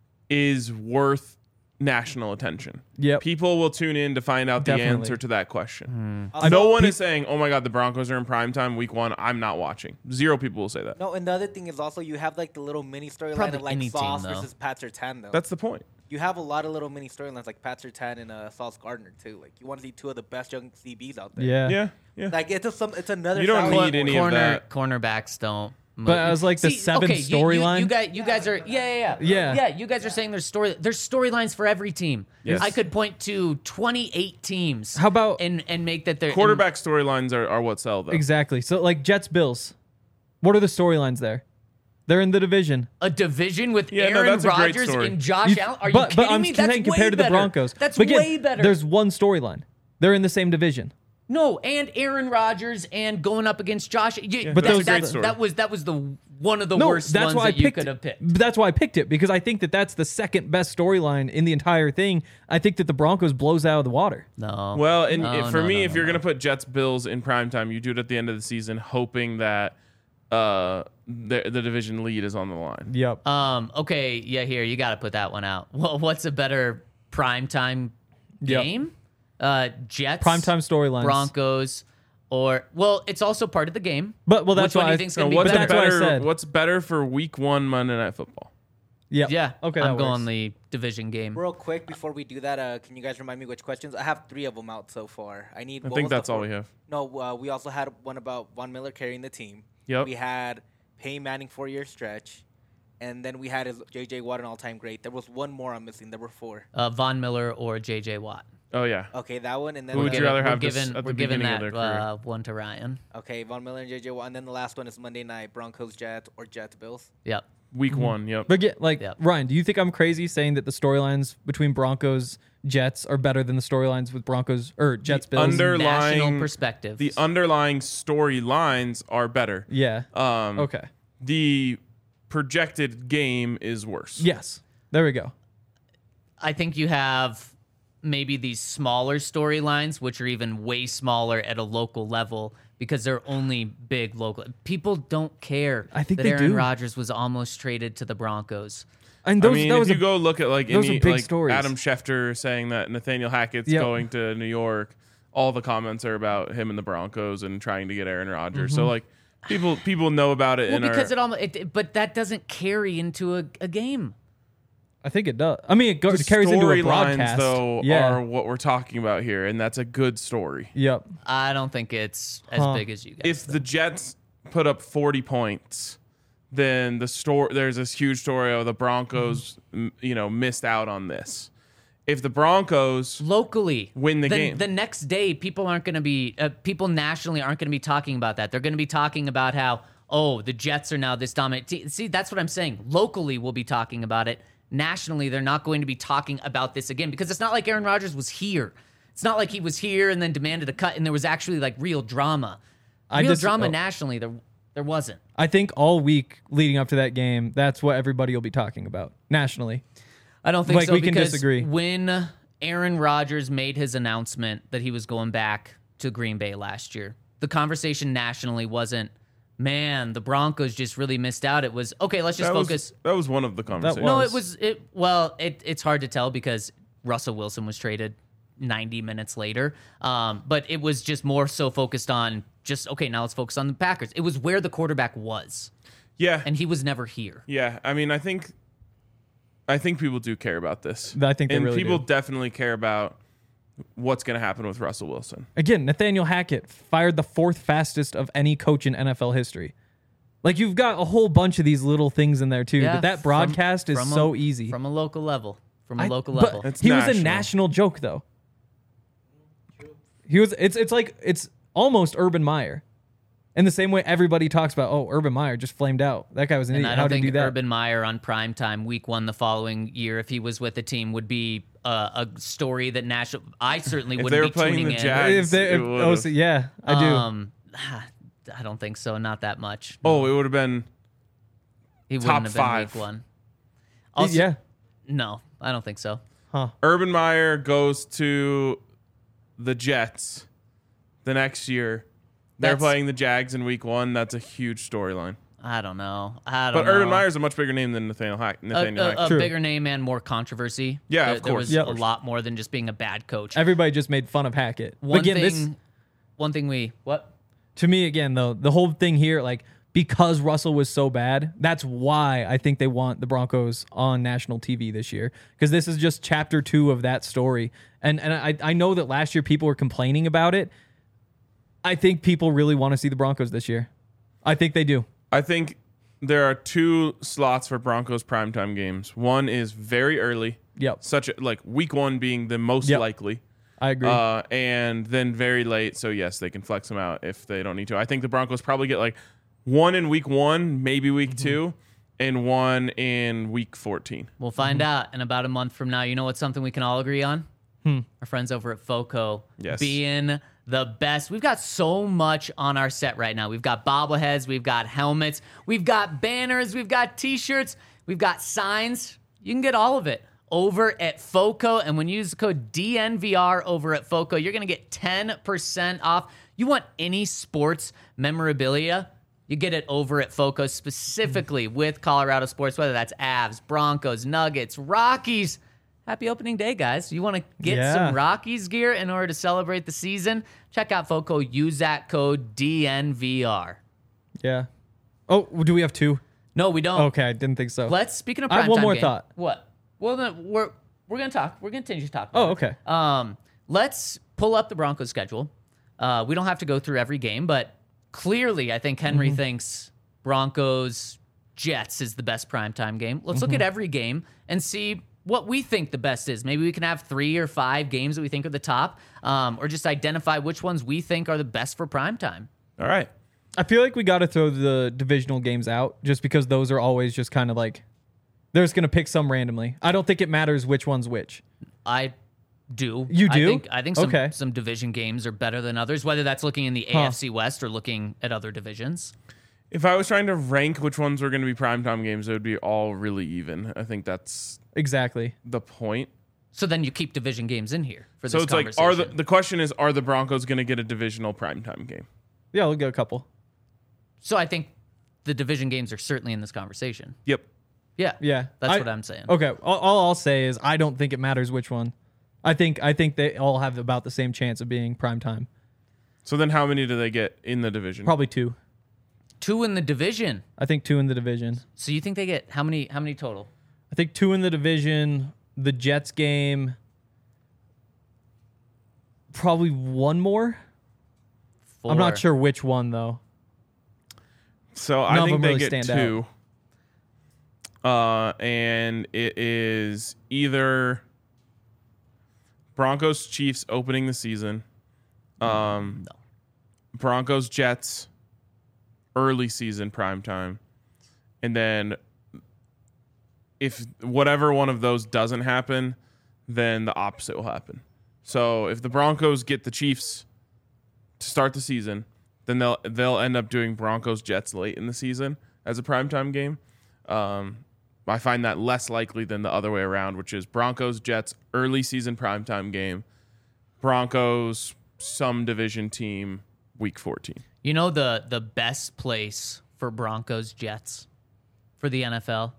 is worth national attention. Yep. People will tune in to find out Definitely. the answer to that question. Also, No one is saying, oh my God, the Broncos are in primetime week one. I'm not watching. Zero people will say that. No, and the other thing is also you have like the little mini storyline Probably of like any team, Sauce though. versus Pat Surtain though. That's the point. You have a lot of little mini storylines like Pat Surtain and Sauce Gardner too. Like you want to see two of the best young CBs out there. Yeah. Yeah. Like it's another. You don't side need any story. of that. Cornerbacks don't. But I was like the seventh storyline. You guys are Yeah. You guys are saying there's storylines for every team. Yes. I could point to 28 teams. How about- and make that their Quarterback storylines are what sell, though. Exactly. So like Jets Bills, what are the storylines there? They're in the division. a division with Yeah, no, Aaron that's a great Rodgers story. and Josh Allen. Are you but kidding I'm me? That's saying way compared to the better. Broncos. That's But again, way better. There's one storyline. They're in the same division. No, and Aaron Rodgers and going up against Josh. But that's those- a great story. that was the one of the No, worst that's ones why I that you picked could it. have picked. That's why I picked it because I think that that's the second best storyline in the entire thing. I think that the Broncos blows out of the water. No. Well, and No, for no, me, no, if no, you're no. going to put Jets Bills in primetime, you do it at the end of the season, hoping that the division lead is on the line. Yep. Okay, yeah, here you got to put that one out. Well, what's a better primetime Yep. game? Jets, Primetime storylines. Broncos, or well, it's also part of the game. But well, that's Which one why do you I think's So gonna be what's that's what I better? said. What's better for Week 1 Monday Night Football? Yep. Yeah, Okay. I'm that going works. the division game. Real quick before we do that, can you guys remind me which questions? I have 3 of them out so far. I need. I what think was the that's all fourth? we have. No, we also had one about Von Miller carrying the team. Yep. We had Peyton Manning 4-year stretch, and then we had his J.J. Watt an all-time great. There was one more I'm missing. There were 4. Von Miller or J.J. Watt. Oh, yeah. Okay, that one, and then Who would you the- rather We're have this giving, at we're the giving beginning that of their career? one to Ryan. Okay, Von Miller and J.J. Watt, and then the last one is Monday night Broncos Jets or Jets Bills. Yep. week 1. Yep. But get like Yep. Ryan, do you think I'm crazy saying that the storylines between Broncos Jets are better than the storylines with Broncos or Jets Bills? National perspective. The underlying storylines are better. Yeah. Um, Okay. The projected game is worse. Yes. There we go. I think you have maybe these smaller storylines, which are even way smaller at a local level because they're only big local. People don't care I think that they Aaron do. Rodgers was almost traded to the Broncos. And I those, mean, that if was you a, go look at like those any are big like stories. Adam Schefter saying that Nathaniel Hackett's Yep. going to New York, all the comments are about him and the Broncos and trying to get Aaron Rodgers. Mm-hmm. So like people know about it. Well, and because are, but that doesn't carry into a game. I think it does. I mean, it the carries into a storylines broadcast. though yeah. are what we're talking about here, and that's a good story. Yep. I don't think it's as Huh. big as you guys. If the Jets put up 40 points, then there's this huge story of the Broncos, missed out on this. If the Broncos locally win the game. the next day people aren't going to be people nationally aren't going to be talking about that. They're going to be talking about how the Jets are now this dominant. See, that's what I'm saying. Locally we'll be talking about it. Nationally they're not going to be talking about this again because it's not like Aaron Rodgers was here. It's not like he was here and then demanded a cut and there was actually like real drama. Nationally there wasn't. I think all week leading up to that game, that's what everybody will be talking about nationally. I don't think Like, so we can because disagree. when Aaron Rodgers made his announcement that he was going back to Green Bay last year, the conversation nationally wasn't, man, the Broncos just really missed out. It was, okay, let's just focus. That was one of the conversations. No, it's hard to tell because Russell Wilson was traded 90 minutes later. But it was just more so focused on just, okay, now let's focus on the Packers. It was where the quarterback was, Yeah. and he was never here. Yeah, I mean, I think people do care about this. I think they and really people do. definitely care about what's going to happen with Russell Wilson. Again, Nathaniel Hackett fired the 4th fastest of any coach in NFL history. Like, you've got a whole bunch of these little things in there too, Yeah, but that broadcast is so easy. From a local level. But level. It's he was a national. national joke though. He was. It's almost Urban Meyer. In the same way everybody talks about, Urban Meyer just flamed out. That guy was an And idiot. I How don't did he think do that? Urban Meyer on primetime week 1 the following year, if he was with the team, would be a story that national. I certainly If wouldn't they were be playing tuning the in. Jags, it would've. Yeah, I do. I don't think so. Not that much. Oh, it would have been He top wouldn't have been 5. week 1. Also, yeah. No, I don't think so. Urban Meyer goes to the Jets the next year. They're That's- playing the Jags in week 1. That's a huge storyline. I don't know. But Urban Meyer's a much bigger name than Nathaniel Hackett. a True. bigger name and more controversy. Yeah, there, of there course. was Yep. a lot more than just being a bad coach. Everybody just made fun of Hackett. But One again, thing what? to me, again, though, the whole thing here, like, because Russell was so bad, that's why I think they want the Broncos on national TV this year. Because this is just chapter 2 of that story. And I know that last year people were complaining about it. I think people really want to see the Broncos this year. I think they do. I think there are 2 slots for Broncos primetime games. One is very early, Yep. like week 1 being the most Yep. likely. I agree. And then very late. So yes, they can flex them out if they don't need to. I think the Broncos probably get like 1 in week 1, maybe week 2, and 1 in week 14. We'll find out in about a month from now. You know what's something we can all agree on? Our friends over at FOCO Yes. being the best. We've got so much on our set right now. We've got bobbleheads, we've got helmets, we've got banners, we've got t-shirts, we've got signs. You can get all of it over at FOCO. And when you use the code DNVR over at FOCO, you're going to get 10% off. You want any sports memorabilia? You get it over at FOCO, specifically with Colorado sports, whether that's Avs, Broncos, Nuggets, Rockies. Happy opening day, guys. You want to get Yeah. some Rockies gear in order to celebrate the season? Check out FOCO. Use that code DNVR. yeah. Oh, do we have 2? No, we don't. Okay, I didn't think so. Speaking of I have primetime one more game- thought. What? Well, then we're gonna talk. We're gonna continue to talk. Oh, about it. okay. Let's pull up the Broncos schedule. We don't have to go through every game, but clearly, I think Henry Mm-hmm. thinks Broncos Jets is the best primetime game. Let's Mm-hmm. look at every game and see what we think the best is. Maybe we can have 3 or 5 games that we think are the top, or just identify which ones we think are the best for primetime. All right. I feel like we got to throw the divisional games out just because those are always just kind of like they're just going to pick some randomly. I don't think it matters which one's which. I do. You do? I think some division games are better than others, whether that's looking in the AFC West or looking at other divisions. If I was trying to rank which ones were going to be primetime games, it would be all really even. I think that's exactly the point. So then you keep division games in here for this So it's like, conversation. the question is, are the Broncos going to get a divisional primetime game? Yeah, we'll get a couple. So I think the division games are certainly in this conversation. Yep. Yeah. That's what I'm saying. Okay, all I'll say is I don't think it matters which one. I think they all have about the same chance of being primetime. So then how many do they get in the division? Probably 2. 2 in the division. I think 2 in the division. So you think they get how many total? I think 2 in the division. The Jets game, probably 1 more. 4. I'm not sure which one though. So None I of think them they really get stand 2. And it is either Broncos Chiefs opening the season, Broncos Jets early season primetime, and then if whatever one of those doesn't happen, then the opposite will happen. So if the Broncos get the Chiefs to start the season, then they'll end up doing Broncos Jets late in the season as a primetime game. I find that less likely than the other way around, which is Broncos Jets early season primetime game, Broncos some division team week 14. You know the best place for Broncos Jets for the NFL?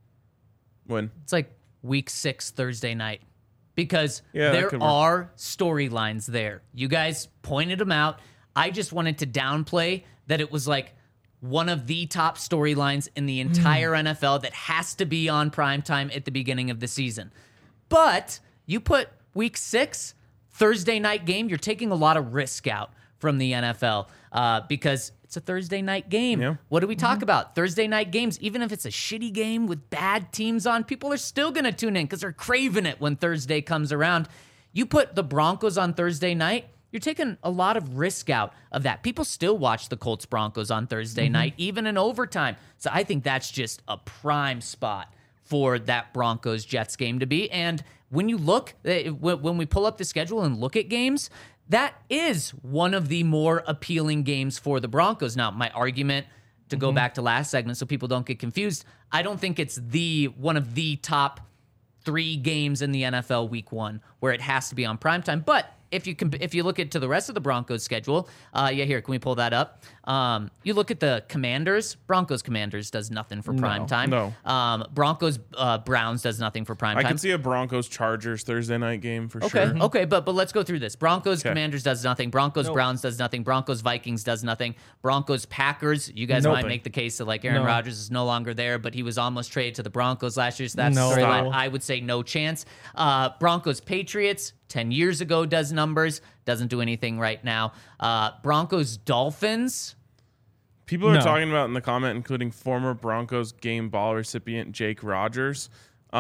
When? It's like week 6 Thursday night. Because Yeah, that there could work. are storylines there. You guys pointed them out. I just wanted to downplay that it was like one of the top storylines in the entire NFL that has to be on primetime at the beginning of the season. But you put week 6, Thursday night game, you're taking a lot of risk out from the NFL because it's a Thursday night game. Yeah. What do we talk about? Thursday night games, even if it's a shitty game with bad teams on, people are still going to tune in because they're craving it when Thursday comes around. You put the Broncos on Thursday night, you're taking a lot of risk out of that. People still watch the Colts Broncos on Thursday night, even in overtime. So I think that's just a prime spot for that Broncos Jets game to be. And when you look, when we pull up the schedule and look at games, that is one of the more appealing games for the Broncos. Now, my argument, to go back to last segment so people don't get confused, I don't think it's one of the top 3 games in the NFL week 1 where it has to be on primetime. But if you look at to the rest of the Broncos schedule, here, can we pull that up? You look at the Commanders. Broncos Commanders does nothing for primetime. No. Broncos Browns does nothing for primetime. I can see a Broncos Chargers Thursday night game for sure. Okay, but let's go through this. Broncos Commanders does nothing. Broncos Browns does nothing. Broncos Vikings does nothing. Broncos Packers. You guys might make the case that like Aaron Rodgers is no longer there, but he was almost traded to the Broncos last year, so that's No. a storyline. I would say no chance. Broncos Patriots 10 years ago does numbers, doesn't do anything right now. Broncos Dolphins. People are No. talking about in the comment, including former Broncos game ball recipient Jake Rogers, but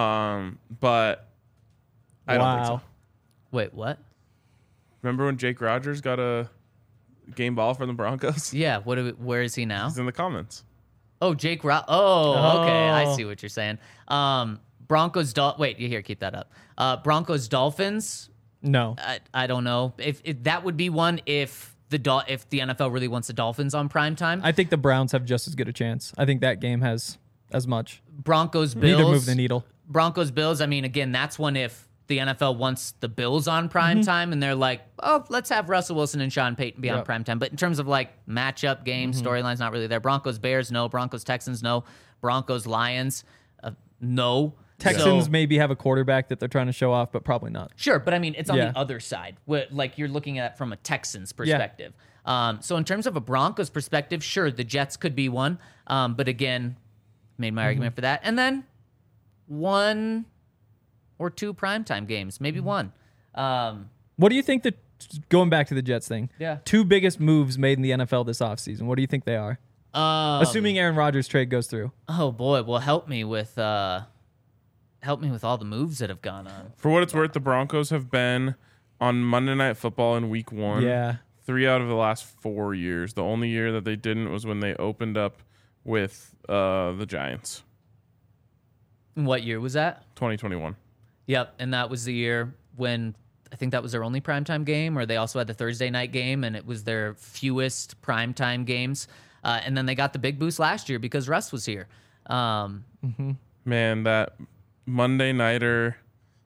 I don't think so. Wait, what? Remember when Jake Rogers got a game ball from the Broncos? Yeah, where is he now? He's in the comments. Oh, Jake Oh, okay. I see what you're saying. Broncos wait, you here, keep that up. Broncos Dolphins. No. I don't know. If that would be one if the NFL really wants the Dolphins on primetime. I think the Browns have just as good a chance. I think that game has as much. Broncos Bills. Neither move the needle. Broncos Bills. I mean, again, that's one if the NFL wants the Bills on primetime and they're like, oh, let's have Russell Wilson and Sean Payton be on primetime. But in terms of like matchup games, storylines, not really there. Broncos Bears, no. Broncos Texans, no. Broncos Lions, no. Texans So- maybe have a quarterback that they're trying to show off, but probably not. Sure, but I mean, it's on Yeah. the other side. Like you're looking at it from a Texans perspective. So in terms of a Broncos perspective, sure, the Jets could be one. But again, made my argument for that. And then 1 or 2 primetime games, maybe one. What do you think going back to the Jets thing? Yeah. 2 biggest moves made in the NFL this offseason. What do you think they are? Assuming Aaron Rodgers trade goes through. Oh boy, well help me with all the moves that have gone on. For what it's worth, the Broncos have been on Monday Night Football in week 1. Yeah. 3 out of the last 4 years. The only year that they didn't was when they opened up with the Giants. What year was that? 2021. Yep, and that was the year when I think that was their only primetime game, or they also had the Thursday night game, and it was their fewest primetime games. And then they got the big boost last year because Russ was here. Man, that Monday nighter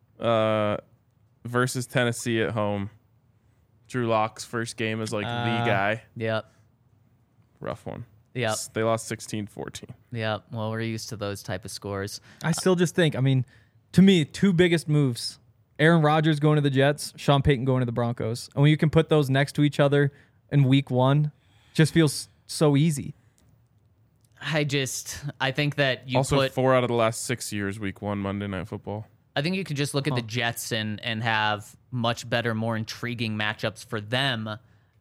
versus Tennessee at home. Drew Lock's first game as like the guy. Yep, Rough one. yep, They lost 16-14. yep. Well, we're used to those type of scores. I still just think, I mean, to me, two biggest moves. Aaron Rodgers going to the Jets, Sean Payton going to the Broncos. And when you can put those next to each other in week one, just feels so easy. I think that you Also, put. 4 out of the last 6 years, week 1 Monday Night Football. I think you could just look at the Jets and have much better, more intriguing matchups for them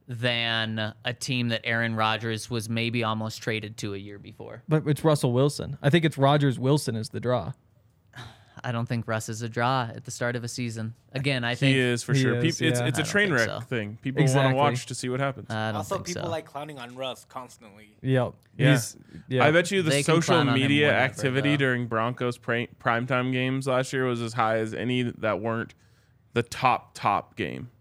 than a team that Aaron Rodgers was maybe almost traded to a year before. But it's Russell Wilson. I think it's Rodgers-Wilson is the draw. I don't think Russ is a draw at the start of a season. Again, I think He is for He sure. is, It's yeah. a I don't train think wreck so. thing. People want Exactly. to watch to see what happens. I don't Also, think people so. like clowning on Russ constantly. Yep. Yeah. Yeah. I bet you the They can social clown on him media whenever, activity though. during Broncos primetime games last year was as high as any that weren't the top game.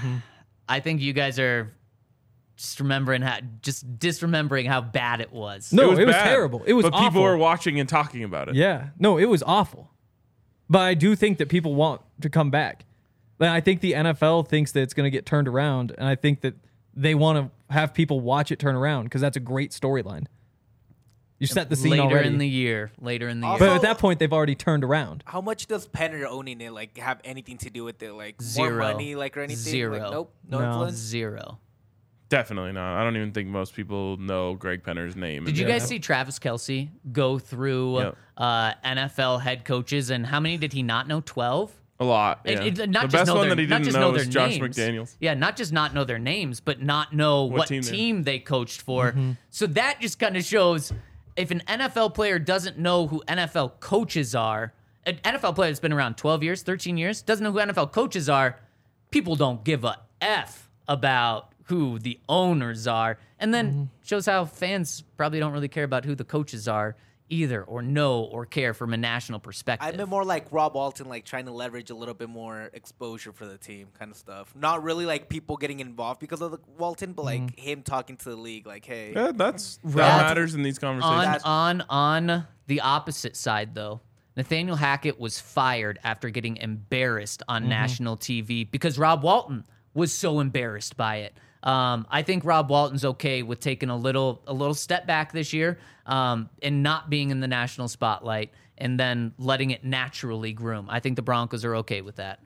I think you guys are just disremembering how bad it was. No, it was bad, terrible. It was but people awful. were watching and talking about it. Yeah. No, it was awful. But I do think that people want to come back. But I think the NFL thinks that it's going to get turned around, and I think that they want to have people watch it turn around because that's a great storyline. You set the scene later already. in the year. Also- But at that point, they've already turned around. How much does Penner owning it like have anything to do with it? Like Zero. more money, like or anything? Zero. Like, nope, no, No. influence. Zero. Definitely not. I don't even think most people know Greg Penner's name. Did you guys see Travis Kelce go through Yep. NFL head coaches, and how many did he not know? 12? A lot. Yeah. Not The just best know one their, that he not didn't just know their was Josh names. McDaniels. Yeah, not just not know their names, but not know what team team, they're- they coached for. So that just kind of shows if an NFL player doesn't know who NFL coaches are, an NFL player that's been around 12 years, 13 years, doesn't know who NFL coaches are, people don't give a F about who the owners are. And then shows how fans probably don't really care about who the coaches are either, or know or care from a national perspective. I've been more like Rob Walton, like trying to leverage a little bit more exposure for the team, kind of stuff. Not really like people getting involved because of the Walton, but like him talking to the league, like, hey, Yeah, that Right. matters in these conversations. On the opposite side, though, Nathaniel Hackett was fired after getting embarrassed on national TV because Rob Walton was so embarrassed by it. I think Rob Walton's okay with taking a little step back this year and not being in the national spotlight and then letting it naturally groom. I think the Broncos are okay with that.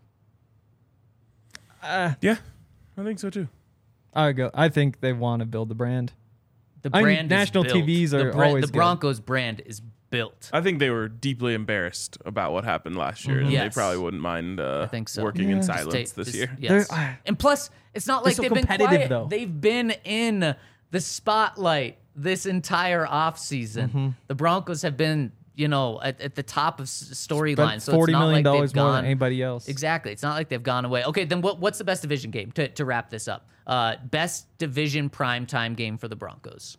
Yeah, I think so too. I think they want to build the brand. The I mean, brand is national built. TVs The are always the good. Broncos brand is built. I think they were deeply embarrassed about what happened last year, and Yes. they probably wouldn't mind think so. working in Just silence this just- year. Yes. They're- And plus, it's not like so they've been competitive, quiet. though. They've been in the spotlight this entire offseason. The Broncos have been, at the top of storylines. Spent So it's $40 not million like they've more gone, than anybody else. Exactly. It's not like they've gone away. Okay, then what's the best division game to wrap this up? Best division primetime game for the Broncos.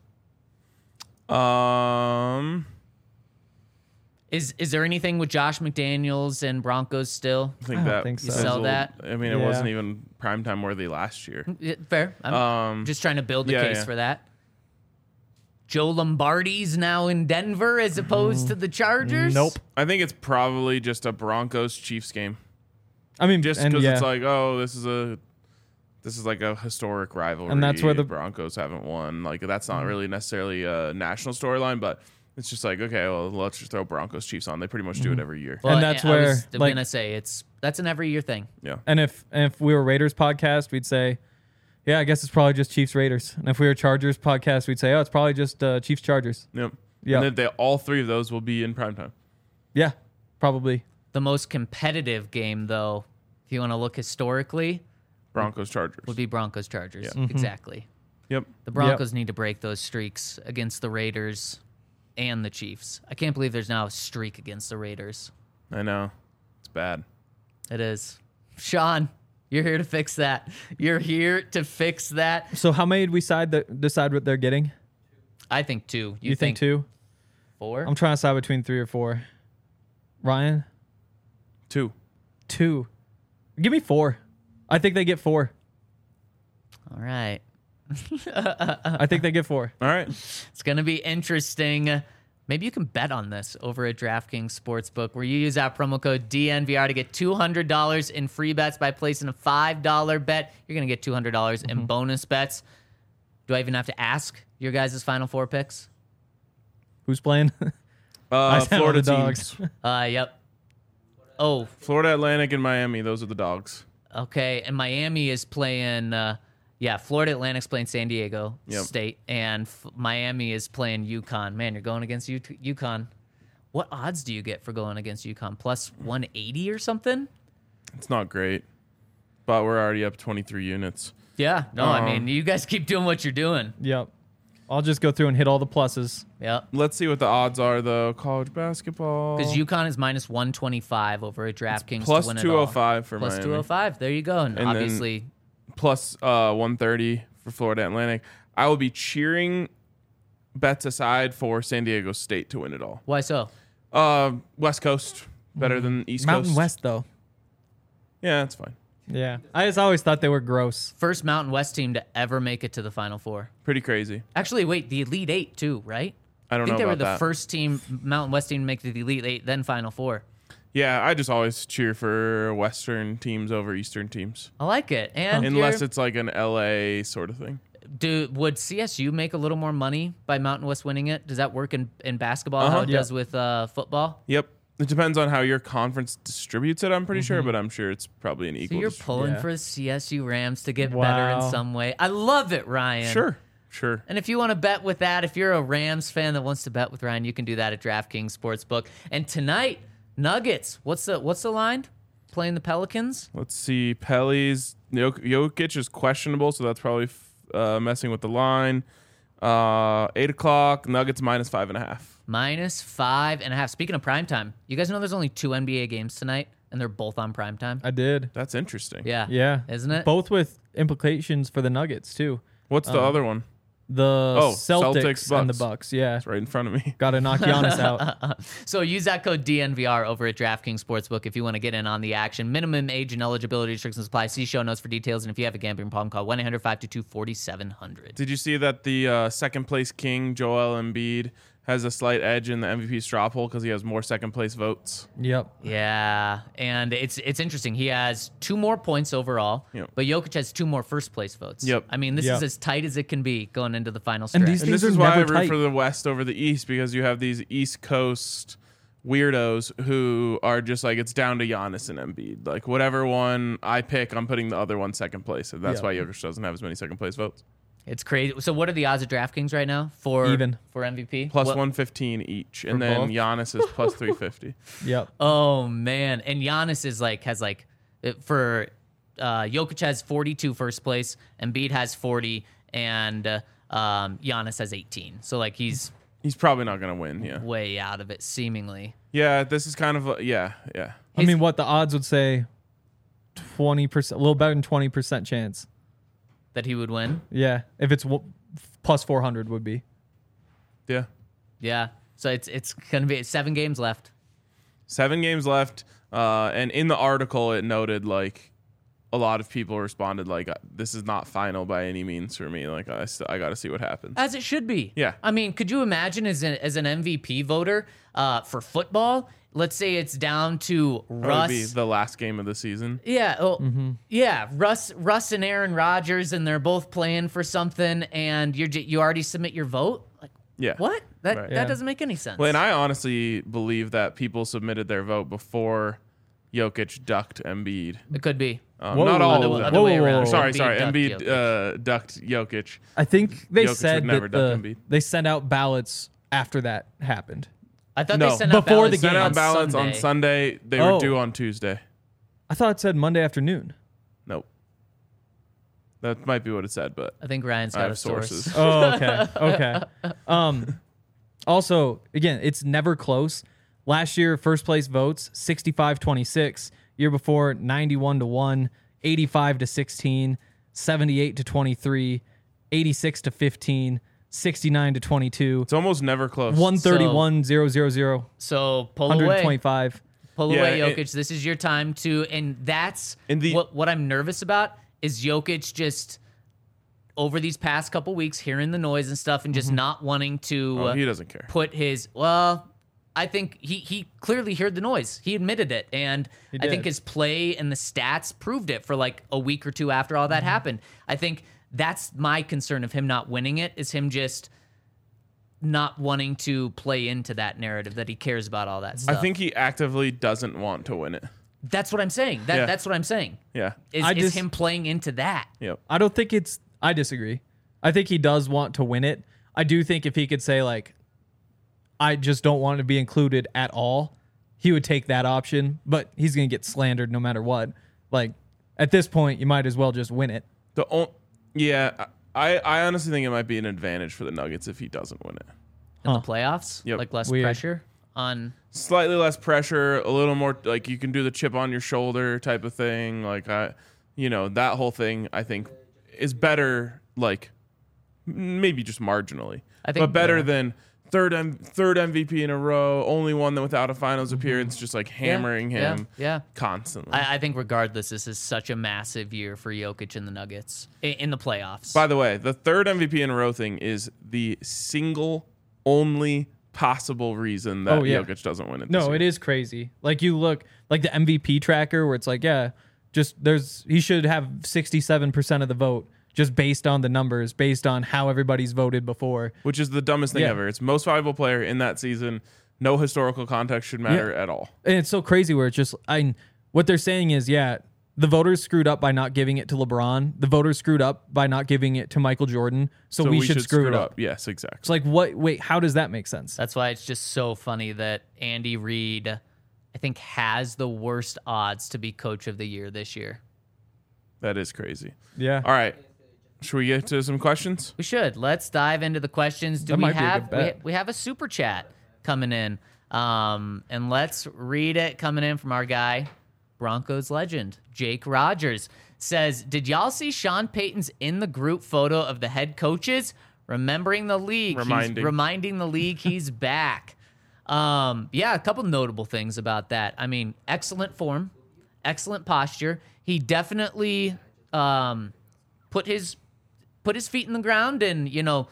Is there anything with Josh McDaniels and Broncos still? I think I don't that think so. You sell fizzled. that? I mean, it Yeah. wasn't even primetime worthy last year. Yeah, fair. I'm just trying to build the yeah, case yeah. for that. Joe Lombardi's now in Denver as opposed to the Chargers. Nope. I think it's probably just a Broncos Chiefs game, I mean, just and because yeah. it's like, oh, this is like a historic rivalry, And that's where the- Broncos haven't won. Like that's not really necessarily a national storyline, but it's just like, okay, well, let's just throw Broncos Chiefs on. They pretty much do it every year. And that's I where, was like- gonna say that's an every year thing. Yeah. And if we were Raiders podcast, we'd say, yeah, I guess it's probably just Chiefs Raiders. And if we were Chargers podcast, we'd say, oh, it's probably just Chiefs Chargers. Yep. Yeah. And then all three of those will be in primetime. Yeah, probably. The most competitive game, though, if you want to look historically, Broncos Chargers. would be Broncos Chargers. Yeah. Exactly. Yep. The Broncos need to break those streaks against the Raiders and the Chiefs. I can't believe there's now a streak against the Raiders. I know. It's bad. It is. Sean, You're here to fix that. You're here to fix that. So how many did we decide what they're getting? I think 2. You think 2? 4? I'm trying to decide between 3 or 4. Ryan? 2. 2. Give me 4. I think they get 4. All right. I think they get 4. All right. It's going to be interesting. Maybe you can bet on this over at DraftKings Sportsbook, where you use our promo code DNVR to get $200 in free bets by placing a $5 bet. You're going to get $200 in bonus bets. Do I even have to ask your guys' Final Four picks? Who's playing? Florida the Dogs. teams. Yep. Oh, Florida Atlantic and Miami. Those are the Dogs. okay. And Miami is playing... Florida Atlantic's playing San Diego State, and Miami is playing UConn. Man, you're going against UConn. What odds do you get for going against UConn? Plus 180 or something? It's not great, but we're already up 23 units. Yeah. No, I mean, you guys keep doing what you're doing. Yep. I'll just go through and hit all the pluses. Yep. Let's see what the odds are, though. College basketball. Because UConn is minus 125 over at DraftKings plus to win 205 it for all. Plus Miami. 205. There you go. And then- obviously... Plus 130 for Florida Atlantic. I will be cheering, bets aside, for San Diego State to win it all. Why so? West Coast better than East Mountain Coast. West, though. Yeah, that's fine. Yeah. I just always thought they were gross. First Mountain West team to ever make it to the Final Four. Pretty crazy. Actually, wait, the Elite Eight too, right? I don't think know they were about the that. first team, Mountain West team, to make the Elite Eight, then Final Four. Yeah, I just always cheer for Western teams over Eastern teams. I like it. And Unless you're- it's like an LA sort of thing. would CSU make a little more money by Mountain West winning it? Does that work in basketball how it Yeah. does with football? Yep. It depends on how your conference distributes it, I'm pretty sure, but I'm sure it's probably an So equal. you're pulling Yeah. for the CSU Rams to get better Wow. in some way. I love it, Ryan. Sure. And if you want to bet with that, if you're a Rams fan that wants to bet with Ryan, you can do that at DraftKings Sportsbook. And tonight, Nuggets. What's the line? Playing the Pelicans? Let's see. Pelly's Jokic is questionable, so that's probably messing with the line. 8 o'clock. Nuggets minus 5.5. Minus 5.5. Speaking of primetime, you guys know there's only 2 NBA games tonight, and they're both on primetime? I did. That's interesting. Yeah. Yeah. Isn't it? Both with implications for the Nuggets, too. What's the other one? The Celtics and the Bucks. Bucks. Yeah. It's right in front of me. Got to knock Giannis out. So use that code DNVR over at DraftKings Sportsbook if you want to get in on the action. Minimum age and eligibility restrictions apply. See show notes for details. And if you have a gambling problem, call 1-800-522-4700. Did you see that the second place king, Joel Embiid, has a slight edge in the MVP straw poll because he has more second place votes? Yep. Yeah, and it's interesting. He has 2 more points overall, Yep. but Jokic has 2 more first place votes. Yep. I mean, this Yep. is as tight as it can be going into the final stretch. these And this Things is are why I never root tight. for the West over the East, because you have these East Coast weirdos who are just like, it's down to Giannis and Embiid. Like, whatever one I pick, I'm putting the other one second place. And that's Yeah. why Jokic doesn't have as many second place votes. It's crazy. So what are the odds of DraftKings right now for Even. for MVP? Plus What- 115 each. And For then both? Giannis is plus 350. Yep. Oh man, and Giannis is for Jokic has 42 first place, Embiid has 40, and Giannis has 18. So like he's He's probably not going to win. Yeah. way out of it seemingly. Yeah. This is kind of, yeah. I mean, what the odds would say 20%, a little better than 20% chance. That he would win. Yeah. If it's plus 400 would be. Yeah. Yeah. So it's gonna be 7 games left. 7 games left. And in the article, it noted like a lot of people responded like, this is not final by any means for me. Like, I got to see what happens. As it should be. Yeah. I mean, could you imagine as an MVP voter for football? Let's say it's down to That would Russ. be the last game of the season. Yeah, yeah. Russ and Aaron Rodgers, and they're both playing for something, and you already submit your vote. Like, Yeah. what? That Right. that Yeah. doesn't make any sense. Well, and I honestly believe that people submitted their vote before Jokic ducked Embiid. It could be. Whoa, Not all Other- of them. other way around. Sorry. Embiid ducked Embiid ducked Jokic. I think they Jokic said would never that duck Embiid. they sent out ballots after that happened. I thought No, they sent out before the ballots game. Sent out on ballots Sunday. on Sunday. They Oh. were due on Tuesday. I thought it said Monday afternoon. Nope. That might be what it said, but I think Ryan's I got have a source. sources. Oh, okay. Okay. Also, again, it's never close. Last year, first place votes 65-26. Year before, 91-1. 85-16, 78-23, 86-15, 69-22, It's almost never close. 131-000, So pull away. 125. Pull Yeah, away, it- Jokic. This is your time to, and that's what I'm nervous about is Jokic just over these past couple weeks hearing the noise and stuff and just not wanting to Oh, he doesn't care. put his, well, I think he clearly heard the noise. He admitted it. And I think did. his play and the stats proved it for like a week or two after all that happened. I think that's my concern of him not winning it is him just not wanting to play into that narrative that he cares about all that I stuff. think he actively doesn't want to win it. That's what I'm saying. Yeah. That's what I'm saying. Yeah. Is him playing into that. Yep. I don't think it's. I disagree. I think he does want to win it. I do think if he could say like, I just don't want to be included at all, he would take that option. But he's gonna get slandered no matter what. Like at this point, you might as well just win it. I honestly think it might be an advantage for the Nuggets if he doesn't win it. In the playoffs, Yep. like less Weird. pressure on. Slightly less pressure, a little more like you can do the chip on your shoulder type of thing. Like that whole thing I think is better. Like maybe just marginally, I think- but better yeah. than third MVP in a row, only one that without a finals appearance, just like hammering him Yeah. constantly. I think regardless, this is such a massive year for Jokic and the Nuggets in the playoffs. By the way, the third MVP in a row thing is the single only possible reason that Jokic doesn't win it. No, it is crazy. Like you look like the MVP tracker where it's like, he should have 67% of the vote just based on the numbers, based on how everybody's voted before. Which is the dumbest thing Yeah. ever. It's most valuable player in that season. No historical context should matter at all. And it's so crazy where it's just what they're saying is, the voters screwed up by not giving it to LeBron. The voters screwed up by not giving it to Michael Jordan. So we should screw it up. Yes, exactly. It's like, what? Wait, how does that make sense? That's why it's just so funny that Andy Reid, I think, has the worst odds to be Coach of the Year this year. That is crazy. Yeah. All right. Should we get to some questions? We should. Let's dive into the questions. Do That we might be a have good bet. we have a super chat coming in? And let's read it coming in from our guy, Broncos legend, Jake Rogers. Says, did y'all see Sean Payton's in the group photo of the head coaches? Remembering the league. He's reminding the league he's back. A couple notable things about that. I mean, excellent form, excellent posture. He definitely put his feet in the ground and,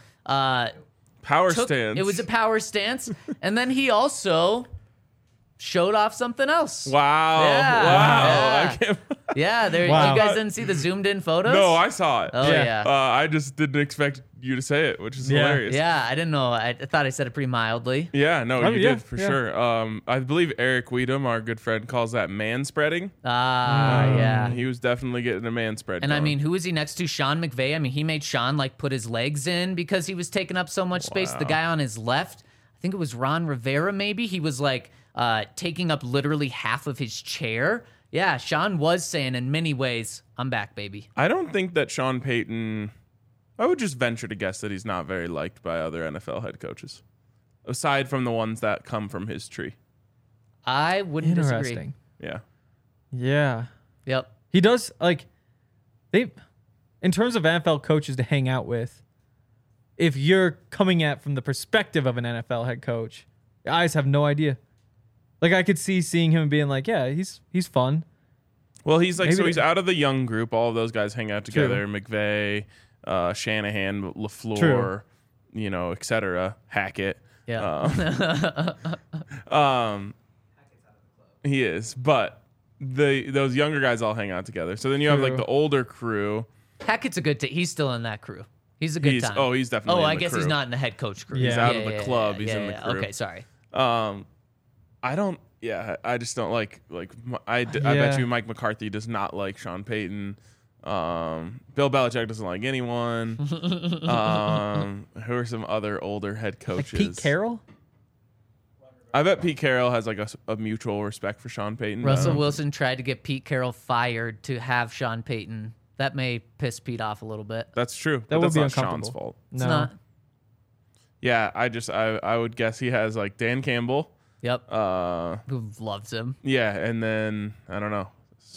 Power stance. it was a power stance. And then he also showed off something else. Wow. Yeah. Wow. Yeah. I can't, Yeah, there. Wow. You guys didn't see the zoomed in photos? no, I saw it. Oh yeah. I just didn't expect you to say it, which is hilarious. Yeah, I didn't know. I thought I said it pretty mildly. Yeah, no, Oh, you yeah, did for yeah. sure. I believe Eric Weedham, our good friend, calls that man spreading. Yeah. He was definitely getting a man spread. And I going. mean, who is he next to? Sean McVay. I mean, he made Sean like put his legs in because he was taking up so much space. The guy on his left, I think it was Ron Rivera, maybe. He was like taking up literally half of his chair. Yeah, Sean was saying in many ways, I'm back, baby. I don't think that Sean Payton. I would just venture to guess that he's not very liked by other NFL head coaches, aside from the ones that come from his tree. I wouldn't disagree. Interesting. Yeah. Yeah. Yep. He does in terms of NFL coaches to hang out with, if you're coming at from the perspective of an NFL head coach, I just have no idea. Like I could seeing him being like, yeah, he's fun. Well, he's like, Maybe so he's they- out of the young group. All of those guys hang out together. McVay, Shanahan, LaFleur, True. et cetera. Hackett. Yeah. He is, but those younger guys all hang out together. So then you have like True. the older crew. Hackett's a good he's still in that crew. He's a good time. He's definitely. Oh, in I the guess he's crew. not in the head coach crew. He's He's out of the club. He's in the crew. Okay, sorry. I don't. Yeah, I just don't like. I bet Yeah. you Mike McCarthy does not like Sean Payton. Bill Belichick doesn't like anyone. Who are some other older head Like coaches? Pete Carroll? I bet Pete Carroll has like a mutual respect for Sean Payton. Russell Wilson tried to get Pete Carroll fired to have Sean Payton. That may piss Pete off a little bit. That's true. That but would that's be not uncomfortable. Sean's fault. It's No. not. Yeah, I would guess he has like Dan Campbell. Yep. Uh, Who loves him. yeah, and then I don't know.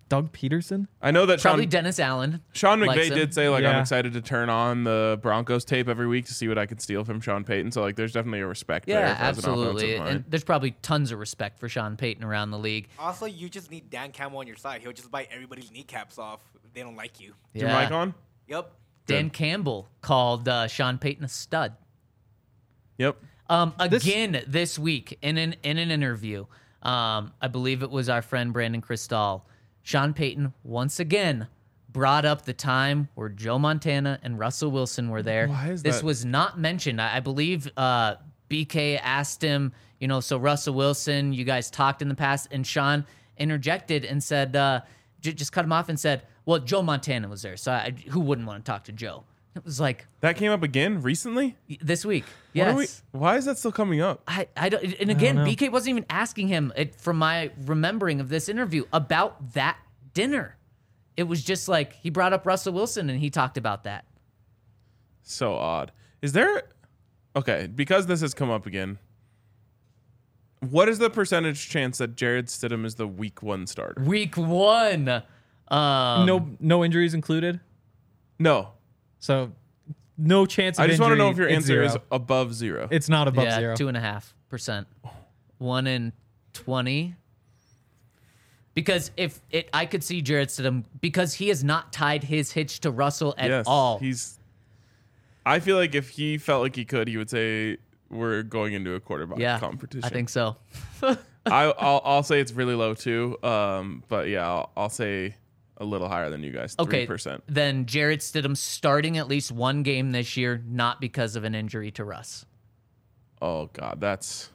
Doug Peterson? I know that Probably Dennis Allen. Sean likes McVay him. did say, like, I'm Yeah. excited to turn on the Broncos tape every week to see what I can steal from Sean Payton. So, like, there's definitely a respect there. Yeah, as an absolutely. offensive mind. And there's probably tons of respect for Sean Payton around the league. Also, you just need Dan Campbell on your side. He'll just bite everybody's kneecaps off if they don't like you. Is your mic on? Yep. Dan Campbell called Sean Payton a stud. Yep. Again this week in an interview, I believe it was our friend Brandon Cristal. Sean Payton once again brought up the time where Joe Montana and Russell Wilson were there. Why is this that? was not mentioned. I believe BK asked him, so Russell Wilson, you guys talked in the past, and Sean interjected and said, just cut him off and said, well, Joe Montana was there, so who wouldn't want to talk to Joe? It was like That came up again recently? this week. What are Yes. why is that still coming up? I don't, and again, know. BK wasn't even asking him, from my remembering of this interview, about that dinner. It was just like he brought up Russell Wilson and he talked about that. So odd. Is there... Okay, because this has come up again, what is the percentage chance that Jared Stidham is the week 1 starter? Week 1. No injuries included. No. So no chance of I just want to know injury. if your It's answer is zero. above 0. It's not above Yeah, zero. 2.5%. 1 in 20. Because I could see Jared Stidham because he has not tied his hitch to Russell at all. I feel like if he felt like he could, he would say we're going into a quarterback competition. I think so. I'll say it's really low too. But yeah, I'll say a little higher than you guys. 3%. Then Jared Stidham starting at least one game this year, not because of an injury to Russ. Oh God, that's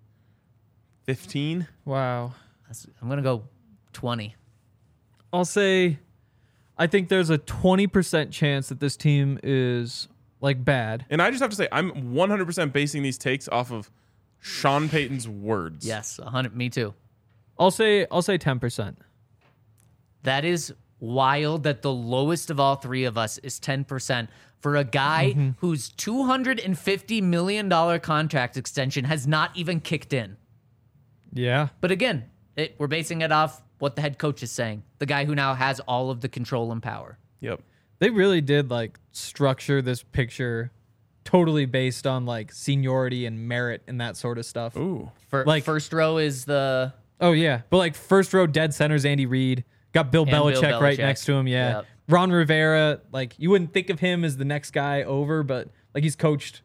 15. Wow. I'm gonna go 20. I'll say I think there's a 20% chance that this team is like bad. And I just have to say, I'm 100% basing these takes off of Sean Payton's words. Yes, 100. Me too. I'll say 10%. That is wild that the lowest of all three of us is 10% for a guy whose $250 million contract extension has not even kicked in. Yeah. But again, we're basing it off what the head coach is saying, the guy who now has all of the control and power. Yep. They really did like structure this picture totally based on like seniority and merit and that sort of stuff. Ooh. Like- First row is the Oh yeah, but like first row dead center's Andy Reid. Got Bill And Bill Belichick right Belichick. next to him. Yeah, Yep. Ron Rivera. Like you wouldn't think of him as the next guy over, but like he's coached.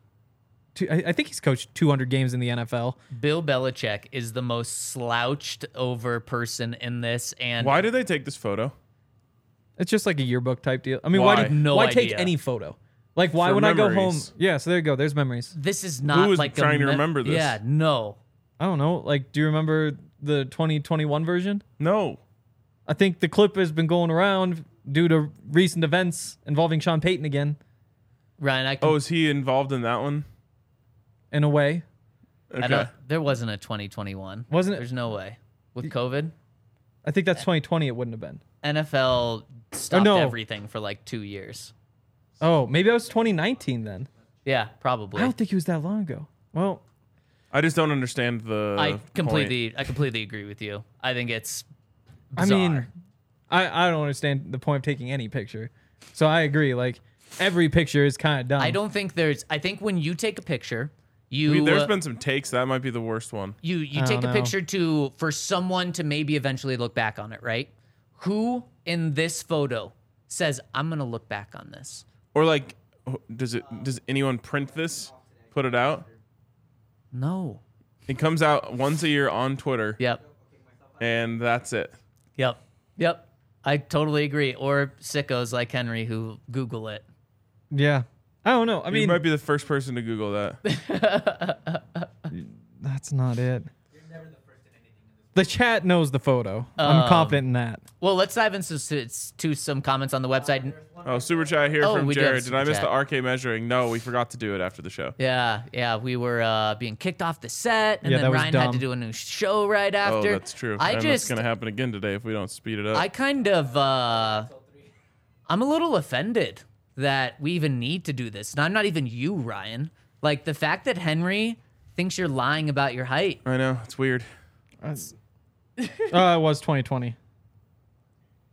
I think he's coached 200 games in the NFL. Bill Belichick is the most slouched over person in this. And Why did they take this photo? It's just like a yearbook type deal. I mean, Why? why take idea. any photo? Like why For when I go home? memories. Yeah, so there you go. There's memories. this is not was like trying to remember this? Yeah, no. I don't know. Like, do you remember the 2021 version? No. I think the clip has been going around due to recent events involving Sean Payton again, Ryan, Oh, is he involved in that one? in a way. Okay. there wasn't a 2021. Wasn't it? There's no way. With COVID, I think that's 2020. It wouldn't have been. NFL stopped no. everything for like 2 years. Oh, maybe that was 2019 then. Yeah, probably. I don't think it was that long ago. Well, I just don't understand the I point. completely agree with you. I think it's I bizarre. mean, I don't understand the point of taking any picture. So I agree. Like every picture is kind of dumb. I don't think I think when you take a picture, you There's been some takes. That might be the worst one. you I take don't a know. picture for someone to maybe eventually look back on it, right? Who in this photo says I'm going to look back on this? Or like, does anyone print this, put it out? No. It comes out once a year on Twitter, Yep. and that's it. Yep. I totally agree. Or sickos like Henry who Google it. Yeah. I don't know. I You mean, might be the first person to Google that. that's not it. The chat knows the photo. I'm confident in that. Well, let's dive into some comments on the website. Oh, super chat here Oh, from we do have Jared. Did I super miss chat. the RK measuring? No, we forgot to do it after the show. Yeah, we were being kicked off the set, and Yeah, then that was Ryan had to dumb. do a new show right after. Oh, that's true. And that's going to happen again today if we don't speed it up. I kind of, I'm a little offended that we even need to do this. And I'm not even you, Ryan. Like the fact that Henry thinks you're lying about your height. I know. It's weird. It was 2020.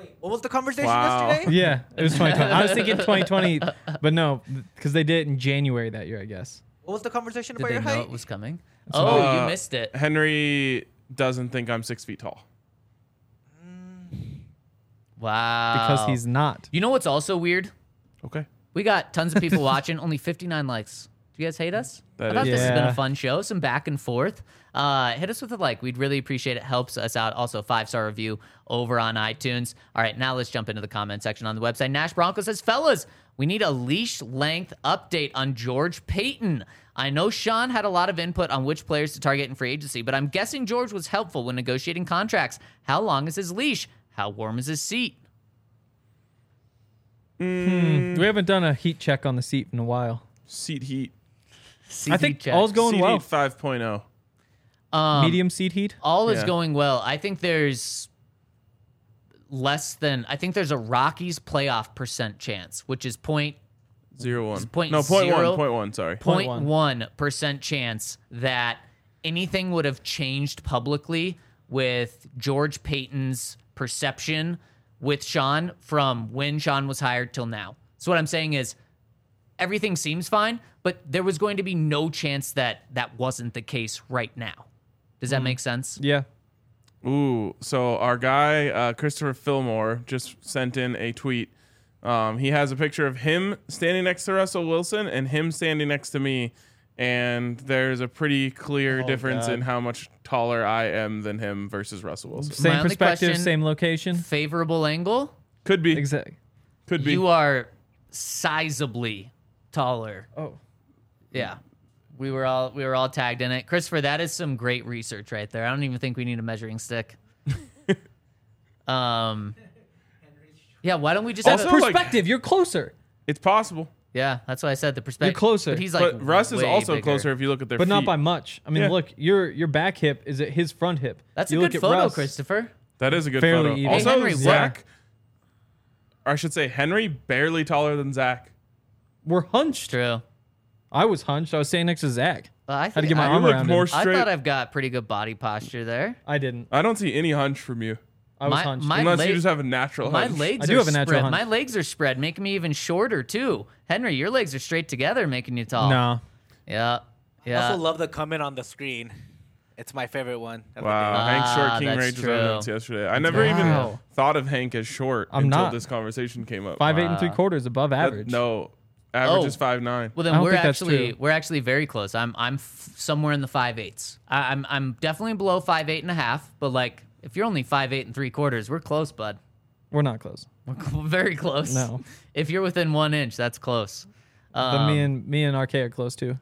Wait, what was the conversation Wow. yesterday? Yeah, it was 2020. I was thinking 2020, but no, because they did it in January that year, I guess. What was the conversation Did about they your know height? it was coming? Oh, you missed it. Henry doesn't think I'm 6 feet tall. Wow. Because he's not. You know what's also weird? Okay. We got tons of people watching, only 59 likes. Do you guys hate us? That I thought is- this has been Yeah. a fun show, some back and forth. Hit us with a like. We'd really appreciate it. Helps us out. Also, 5-star review over on iTunes. All right, now let's jump into the comment section on the website. Nash Bronco says, fellas, we need a leash length update on George Payton. I know Sean had a lot of input on which players to target in free agency, but I'm guessing George was helpful when negotiating contracts. How long is his leash? How warm is his seat? We haven't done a heat check on the seat in a while. Seat heat. I think check. all's going Seat well. heat 5.0. Medium seat heat. All is Yeah. going well. I think there's I think there's a Rockies playoff percent chance, which is 0.1. point No, 0.1. zero- 0.1, sorry. 0.1% chance that anything would have changed publicly with George Payton's perception with Sean from when Sean was hired till now. So what I'm saying is everything seems fine, but there was going to be no chance that that wasn't the case right now. Does that make sense? Yeah. Ooh, so our guy, Christopher Fillmore, just sent in a tweet. He has a picture of him standing next to Russell Wilson and him standing next to me. And there's a pretty clear difference God. in how much taller I am than him versus Russell Wilson. My Same only perspective, question- same location. Favorable angle? Could be. Exactly. Could be. You are sizably taller. Oh. Yeah. We were all tagged in it. Christopher, that is some great research right there. I don't even think we need a measuring stick. Yeah, why don't we just Also, have a, like- Perspective. You're closer, It's possible. yeah, that's what I said. The perspective. You're closer. But he's like, But Russ is way also bigger. closer if you look at their but feet. not by much. I mean, Yeah. look, your back hip is at his front hip. That's you a look good at photo, Russ, Christopher. That is a good Fairly photo. even. Also, Hey, Henry, Zach, or I should say Henry, barely taller than Zach. We're hunched. True. I was hunched. I was standing next to Zach. I Had to get my I, arm You look around more him. I straight. thought I've got pretty good body posture there. I didn't. I don't see any hunch from you. I was My- hunched. my- Unless leg- you just have a natural My hunch. legs I do are have a natural spread. hunch. My legs are spread, making me even shorter too. Henry, your legs are straight together, making you tall. No. Yeah. I Yeah. also love the comment on the screen. It's my favorite one. of the Wow, day. Hank's short King that's Rage was true. evidence yesterday. I never even Wow. thought of Hank as short I'm until not. this conversation came up. 5'8" and 3/4 above That- average. no, average Oh. is 5'9". Well, I then don't we're think that's true. actually very close. I'm somewhere in the 5/8s. I'm definitely below 5'8.5", but like if you're only 5'8 and 3/4, we're close, bud. We're not close. We're very close. No. If you're within 1 inch, that's close. But me and RK are close too.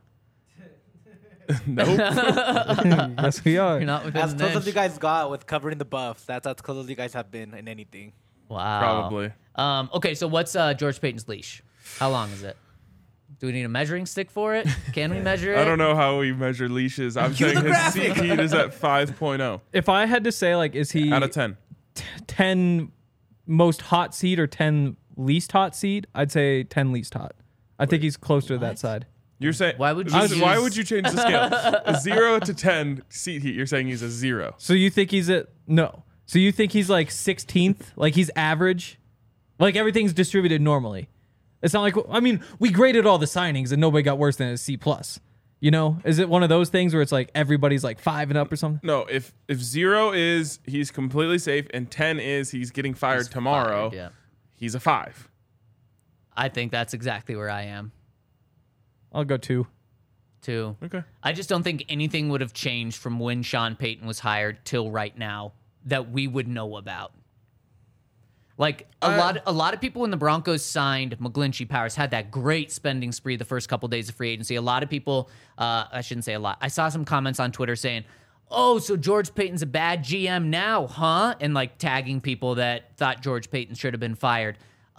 Nope. Yes, we are. You're not within As an close inch. as you guys got with covering the buffs, that's as close as you guys have been in anything. Wow. Probably. Okay, so what's George Payton's leash? How long is it? Do we need a measuring stick for it? Can we measure it? I don't know how we measure leashes. I'm Cue saying the his seat heat is at 5.0 If I had to say, like, is he out of 10. 10 most hot seat or 10 least hot seat? I'd say 10 least hot. I think he's closer to that side. You're saying Why would you why use- would you change the scale? A 0 to 10 seat heat. You're saying he's a 0. So you think he's at no? So you think he's like 16th? Like he's average? Like everything's distributed normally? It's not like, I mean, we graded all the signings and nobody got worse than a C plus. You know, is it one of those things where it's like everybody's like 5 and up or something? No, if 0 is he's completely safe and 10 is he's getting fired tomorrow, Yeah. he's a 5. I think that's exactly where I am I'll go 2. too. Okay. I just don't think anything would have changed from when Sean Payton was hired till right now that we would know about. Like a lot of people when the Broncos signed McGlinchey, Powers had that great spending spree the first couple days of free agency. A lot of people, I shouldn't say a lot. I saw some comments on Twitter saying, "Oh, so George Payton's a bad GM now, huh?" And like tagging people that thought George Payton should have been fired.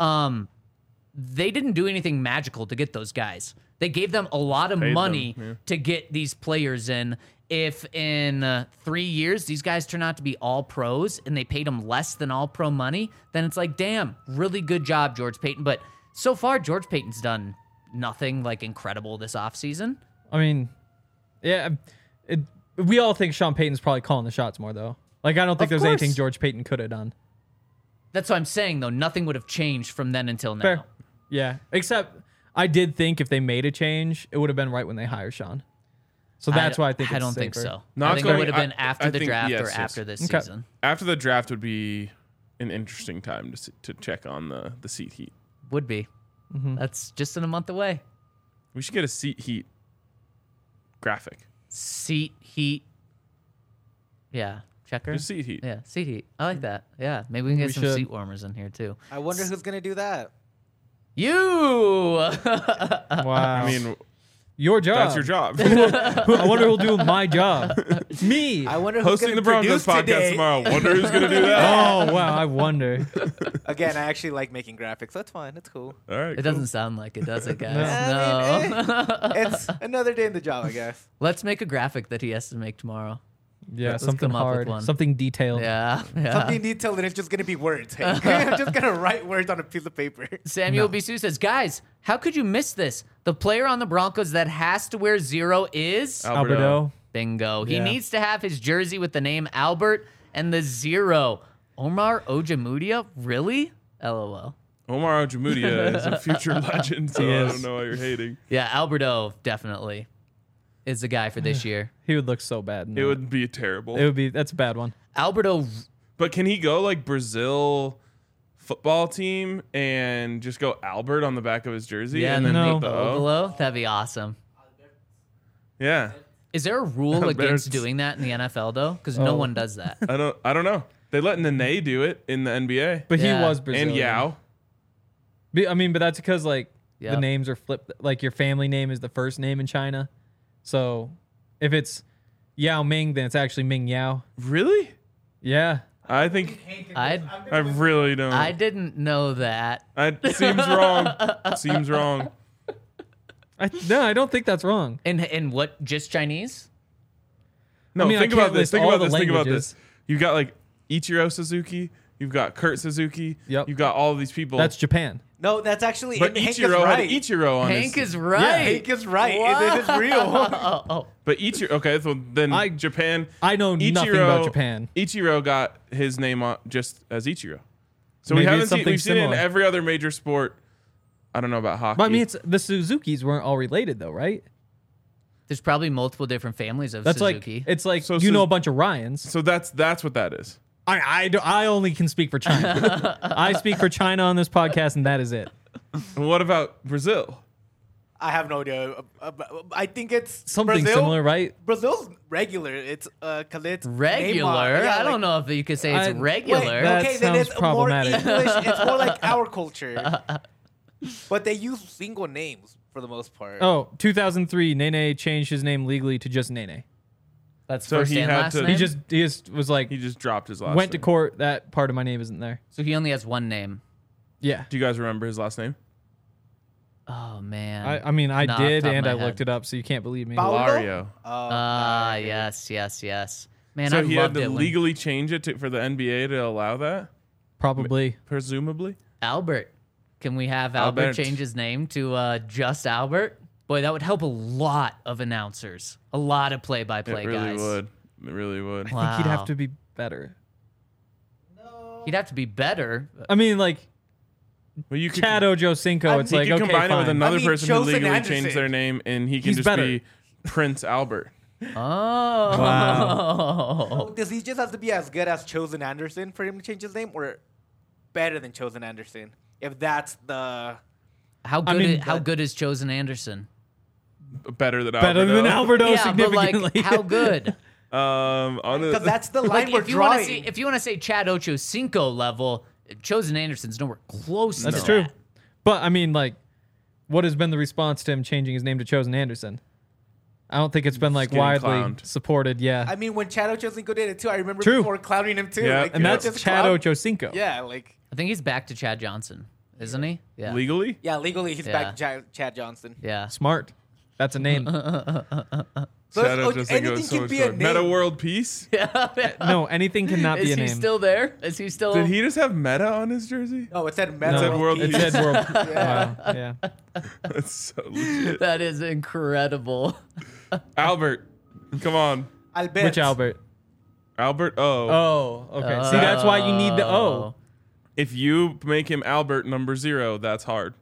They didn't do anything magical to get those guys. They gave them a lot of Paid them, money yeah. to get these players in. If in 3 years these guys turn out to be all pros and they paid them less than all pro money, then it's like, damn, really good job, George Payton. But so far, George Payton's done nothing like incredible this offseason. I mean, yeah, we all think Sean Payton's probably calling the shots more though. Like I don't think Of there's anything course. George Payton could have done. That's what I'm saying, though. Nothing would have changed from then until now. Fair. Yeah. Except I did think if they made a change, it would have been right when they hire Sean. So that's why I think I it's don't think safer. so. Not I think it going- would have been I after the think- draft yes, or yes. after this Okay. season. After the draft would be an interesting time to check on the seat heat. Would be. That's just in a month away. We should get a seat heat graphic. Seat heat. Yeah. Checker. Just seat heat. Yeah. Seat heat. I like that. Yeah. Maybe we can get We some should. seat warmers in here too. I wonder who's gonna do that. You. Wow. I mean, your job. that's your job. I wonder who'll do my job. Me. I wonder who's Hosting gonna the Broncos produce podcast today. tomorrow. Wonder who's gonna do that. Oh, wow. I wonder. Again, I actually like making graphics. That's fine. It's cool. All right. It doesn't sound like it, does it, guys? I mean, No. It's another day in the job, I guess. Let's make a graphic that he has to make tomorrow. Yeah, Let's something come up with hard. one. Something detailed. Yeah. Yeah. Something detailed, and it's just gonna be words. Hey, I'm just gonna write words on a piece of paper. Samuel Bisou says, guys, how could you miss this? The player on the Broncos that has to wear 0 is Alberto. bingo. He Yeah. needs to have his jersey with the name Albert and the 0. Omar Ojamudia? Really? LOL. Omar Ojamudia is a future legend, so He I is. don't know why you're hating. Yeah, Alberto definitely is the guy for this year. He would look so bad. in It that. would be terrible. It would be. That's a bad one. Alberto, But can he go like Brazil football team and just go Albert on the back of his jersey? yeah, and and then then No. make the put the O O? below. That'd be awesome. Yeah. Is there a rule There's- against doing that in the NFL though? Because no Oh. one does that. I don't know. They let Nene do it in the NBA. But Yeah. he was Brazilian. And Yao. I mean, but that's because like Yep. the names are flipped. Like your family name is the first name in China. So if it's Yao Ming, then it's actually Ming Yao. Really? Yeah. I think I really don't. I didn't know that. It seems wrong. Seems wrong. No, I don't think that's wrong. In what? Just Chinese? No, I mean, I think can't about this. list Think all about the this. Think about languages. this. You've got like Ichiro Suzuki. You've got Kurt Suzuki. Yep. You've got all of these people. That's Japan. No, that's actually. but Hank is Ichiro right. had Ichiro on Hank his. is right. Hank is right. It is real. Oh, But Ichiro. Okay, so then Japan. I know nothing about Japan. Ichiro got his name on just as Ichiro. So Maybe we haven't it's seen. something We've seen it in similar. every other major sport. I don't know about hockey. But I mean, it's the Suzukis weren't all related though, right? There's probably multiple different families of That's Suzuki. like it's like So you know Suz- a bunch of Ryans. so that's what that is. I only can speak for China. I speak for China on this podcast, and that is it. And what about Brazil? I have no idea. I think it's Something Brazil. similar, right? Brazil's regular. It's cause it's regular. Neymar. Yeah, I don't like- know if you could say it's I- regular. Wait, That okay, then sounds it's problematic. more English. It's more like our culture. But they use single names for the most part. Oh, 2003, Nene changed his name legally to just Nene. That's So first he and had last to- name. He just was like, He just dropped his last. went to name. court. That part of my name isn't there. So he only has one name. Yeah. Do you guys remember his last name? Oh man. I mean, I Not off the did, top of and my I head. looked it up, so you can't believe me. Paulo? Lario. Ah, yes. Man, So I he had loved to it when legally change it for the NBA to allow that, Probably. presumably. Albert. Can we have Albert Albert. change his name to just Albert? Boy, that would help a lot of announcers, a lot of play-by-play It really guys. would. It really would. I think he'd have Wow. to be better. He'd have to be better. I mean, like Well, you could, Chad Ojocinco, it's he like, could okay, combine it with fine. another I mean, person who Chosen legally Anderson. changed their name, and he can He's just better. be Prince Albert. Oh. Oh, does he just have to be as good as Chosen Anderson for him to change his name, or better than Chosen Anderson? If that's the How good? mean, how good is Chosen Anderson? Better than Better Alberto. than Alberto Yeah, but like, significantly. how good? On the, because that's the line Like, we're if you want to drawing. see, if you want to say Chad Ochocinco level, Chosen Anderson's nowhere close. That's to true. that. But I mean, like, what has been the response to him changing his name to Chosen Anderson? I don't think it's been like getting widely clowned. supported. Yeah, I mean, when Chad Ochocinco did it too, I remember True. people were clowning him too. Yeah. Like, and you know, that's just Chad clown- Ochocinco. Yeah, like I think he's back to Chad Johnson, isn't he? Yeah. legally. yeah, legally he's Yeah. back to Chad Johnson. Yeah. Smart. That's a name. So Shout out it's- to anything can be a name. Meta World Peace. No, anything cannot Is be a he name. still there? Is he still? Did he just have Meta on his jersey? No, it said No, Meta said World it Peace. said world. Wow. Yeah. That's so legit. That is incredible. Albert, come on, Albert. Which Albert? Albert. Oh, Oh, okay. See, that's why you need the O. If you make him Albert number 0, that's hard.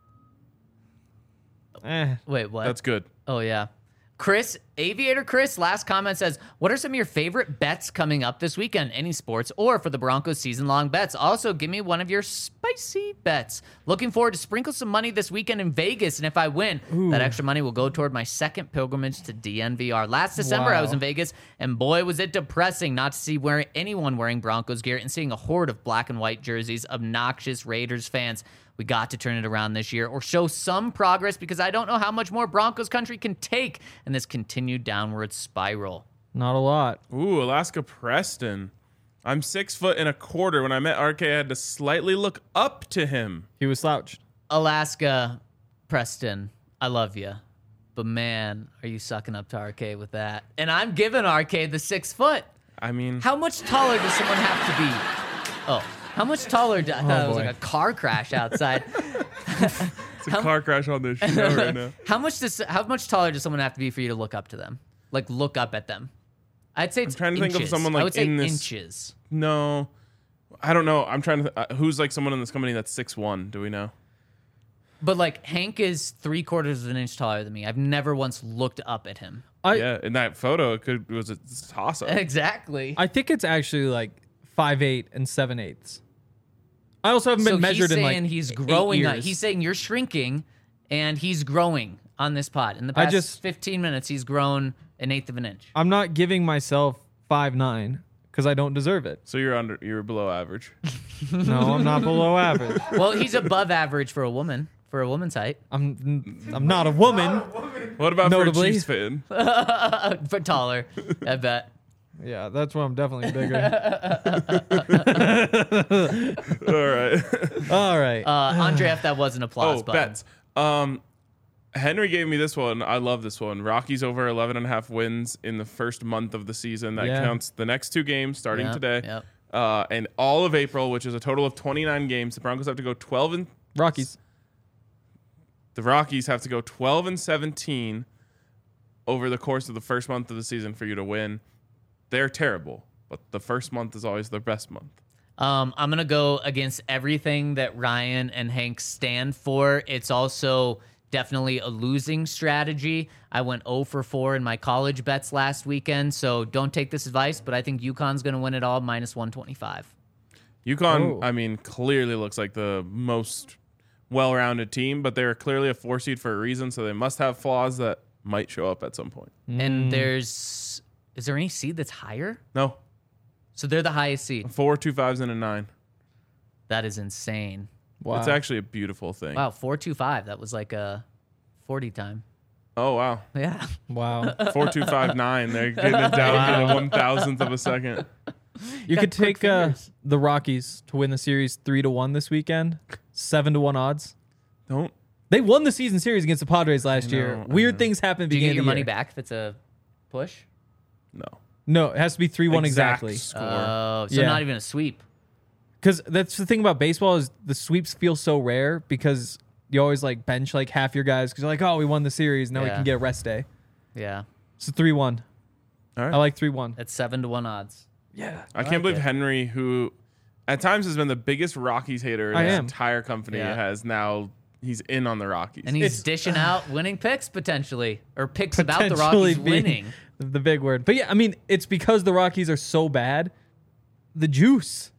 Wait, what? That's good. Oh, yeah. Aviator Chris, last comment says, what are some of your favorite bets coming up this weekend? Any sports or for the Broncos season-long bets? Also, give me one of your spicy bets. Looking forward to sprinkle some money this weekend in Vegas, and if I win, that extra money will go toward my second pilgrimage to DNVR. Last December, I was in Vegas, and boy, was it depressing not to see anyone wearing Broncos gear and seeing a horde of black and white jerseys, obnoxious Raiders fans. We got to turn it around this year or show some progress because I don't know how much more Broncos country can take in this continued downward spiral. Not a lot. Ooh, Alaska Preston. I'm 6'125". When I met RK, I had to slightly look up to him. He was slouched. Alaska Preston, I love you. But man, are you sucking up to RK with that? And I'm giving RK the 6 foot. I mean, How much taller does someone have to be? Oh, how much taller? I thought it was like a car crash outside. it's a car crash on this show right now. How much taller does someone have to be for you to look up to them? Like look up at them? I'd say it's trying to inches. think of someone I like would say in this. inches. No, I don't know. I'm trying to. Who's like someone in this company that's 6'1"? Do we know? But like Hank is 3/4 of an inch taller than me. I've never once looked up at him. Yeah, in that photo, it was a toss up. Exactly. I think it's actually like 5'8" and 7/8. I also haven't been measured he's in saying like he's 8 growing. years. He's saying you're shrinking, and he's growing on this pod. In the past 15 minutes, he's grown 1/8 of an inch. I'm not giving myself 5'9" because I don't deserve it. So you're below average. No, I'm not below average. Well, he's above average for a woman. For a woman's height. I'm not a woman. What about Notably. for a Chiefs fan? For taller, I bet. Yeah, that's why I'm definitely bigger. All right. All right. Andre, if that was an applause button. bets. Henry gave me this one. I love this one. Rockies over 11.5 wins in the first month of the season. That counts the next 2 games starting today. Yep. And all of April, which is a total of 29 games. The Broncos have to go 12 and Rockies. The Rockies have to go 12 and 17 over the course of the first month of the season for you to win. They're terrible, but the first month is always their best month. I'm going to go against everything that Ryan and Hank stand for. It's also definitely a losing strategy. I went 0 for 4 in my college bets last weekend, so don't take this advice, but I think UConn's going to win it all, minus 125. UConn, I mean, clearly looks like the most well-rounded team, but they're clearly a 4 seed for a reason, so they must have flaws that might show up at some point. And is there any seed that's higher? No. So they're the highest seed. 4 2-5s and a 9. That is insane. Wow. It's actually a beautiful thing. Wow, 4.25. That was like a 40 time. Oh, wow. Yeah. Wow. 4.259. They're getting it down to the 1,000th of a second. You could quick take fingers. the Rockies to win the series 3-1 this weekend. 7-1 odds. Don't. They won the season series against the Padres last year. I Weird things happen at the Do you beginning get your of the money year. back if it's a push? No. No, it has to be 3-1 exactly. Score. Oh, so Yeah. not even a sweep. Because that's the thing about baseball is the sweeps feel so rare because you always like bench like half your guys because you're like, oh, we won the series. Now we Yeah. can get a rest day. Yeah. It's a 3-1. All right. I like 3-1. It's 7-1 odds. Yeah. I can't believe Henry, who at times has been the biggest Rockies hater in I his am. entire company, Yeah. has now he's in on the Rockies. And he's It's- dishing out winning picks potentially, or picks about the Potentially Rockies being winning. The big word. But yeah, I mean, it's because the Rockies are so bad. The juice.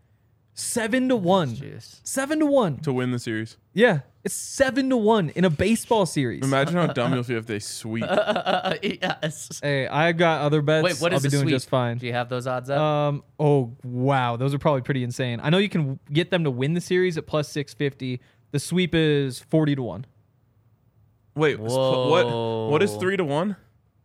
7-1. Juice. 7-1. to win the series. Yeah. It's 7-1 in a baseball series. Imagine how dumb you'll feel if they sweep. Yes. Hey, I got other bets. Wait, what I'll is be the doing sweep? just fine. Do you have those odds up? Oh wow, those are probably pretty insane. I know you can get them to win the series at plus 650. The sweep is 40-1. Wait, Whoa. what is 3-1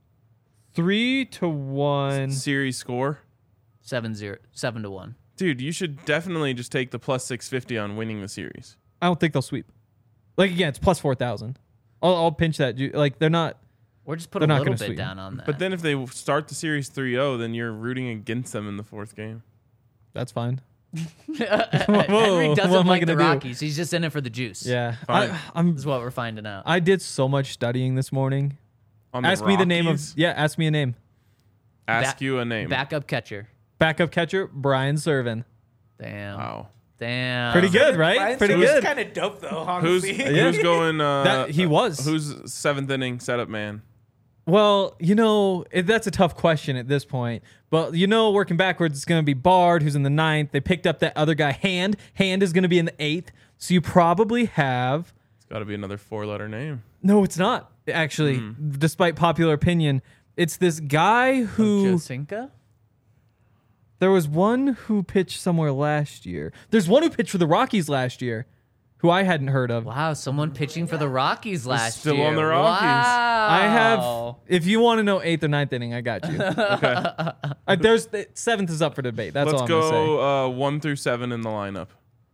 3-1. series score? 7-1. Dude, you should definitely just take the plus 650 on winning the series. I don't think they'll sweep. Like again, it's plus 4,000. I'll pinch that. Like they're not. Or just put They're a not little gonna bit sweep. down on that. But then if they start the series 3-0, then you're rooting against them in the 4th game. That's fine. Henry what doesn't am I like the gonna do? Rockies. He's just in it for the juice. Yeah, Fine. I'm. This is what we're finding out. I did so much studying this morning. On the Ask me the name of. Rockies, Yeah, ask me a name. Ask you a name. Backup catcher. Backup catcher Brian Servin. Damn. Wow. Damn. Pretty good, right? Brian Pretty Singer's good. kind of dope though, Who's honestly. who's going? That he was. Who's seventh inning setup man? Well, that's a tough question at this point. But working backwards, it's going to be Bard, who's in the 9th. They picked up that other guy, Hand. Hand is going to be in the 8th. So you probably have. It's got to be another 4-letter name. No, it's not actually. Despite popular opinion, it's this guy who. Josinka? There was one who pitched somewhere last year. There's one who pitched for the Rockies last year, who I hadn't heard of. Wow, someone pitching for the Rockies last still year. on the Rockies. Wow. I have. If you want to know 8th or 9th inning, I got you. Okay, There's 7th is up for debate. That's let's all I'm gonna say. go 1 through 7 in the lineup.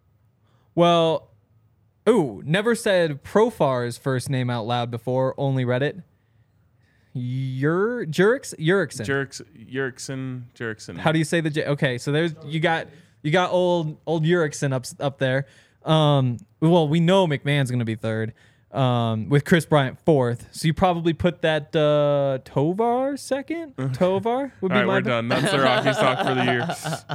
Well, never said Profar's first name out loud before. Only read it. Jurickson. Jurickson. How do you say the J? Okay, so there's you got old Jurickson up there. Well, we know McMahon's gonna be 3rd. With Chris Bryant 4th. So you probably put that Tovar 2nd. Tovar would All be right, my we're done. That's the Rockies talk for the year.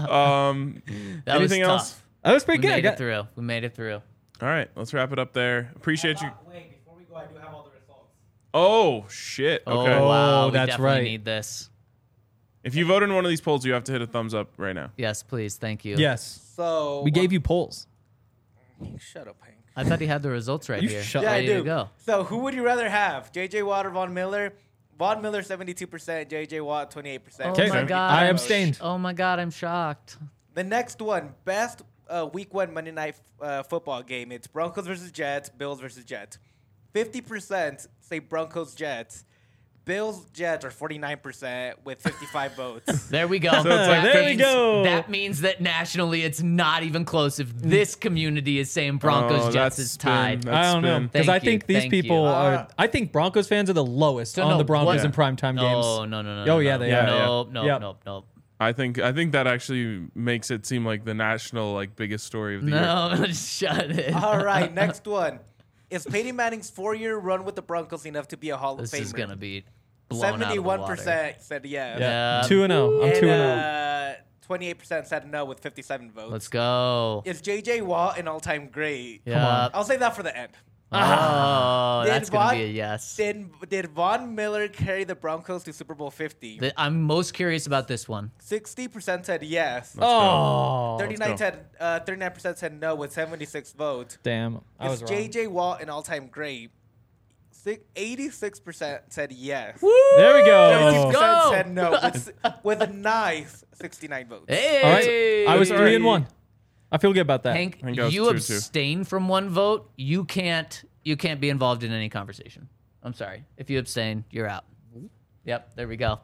That Anything was else? tough. That was pretty We good. made it through. We made it through. All right, let's wrap it up there. Appreciate you. Wait, before we go, I do have all the results. Oh shit. Okay. Oh, wow. Oh, We that's definitely right. need this. If you vote in one of these polls, you have to hit a thumbs up right now. Yes, please. Thank you. Yes. So We gave you polls. Shut up, Hank. I thought he had the results right You here. shut Yeah, I Ready do. to go. So who would you rather have? J.J. Watt or Von Miller? Von Miller 72%, J.J. Watt 28%. Oh Okay. my god. I I'm abstained. Oh my god, I'm shocked. The next one, best week 1 Monday night football game. It's Broncos versus Jets, Bills versus Jets. 50% say Broncos Jets. Bills Jets are 49% with 55 votes. There we go. it's like There we go. That means that nationally it's not even close if this community is saying Broncos Oh, Jets that's is tied. spin. I don't know. spin. Because Thank I think you, these thank you. people are. I think Broncos fans are the lowest So on no, the Broncos what- in primetime games. No. Oh, yeah, they are. Nope, nope, Yep. nope. I think that actually makes it seem like the national biggest story of the year. No, shut it. All right, next one. Is Peyton Manning's 4-year run with the Broncos enough to be a Hall This of Famer? is gonna be blown out of the water. 71% said yes. Yeah. 2-0. I'm And 2-0. 28% said no with 57 votes. Let's go. Is J.J. Watt an all-time great? Yeah. I'll save that for the end. Oh, Did that's gonna be a Von- yes. Did Von Miller carry the Broncos to Super Bowl 50? I'm most curious about this one. 60% said yes. Oh, 39% said no with 76 votes. damn. I was Is wrong. J.J. Watt an all-time great? 86% said yes. There we go. 36% go. said no with a nice 69 votes. Hey, All right. I was 3-1. I feel good about that. Hank, think I was you 2-2. abstain from one vote. You can't be involved in any conversation. I'm sorry. If you abstain, you're out. Yep, there we go.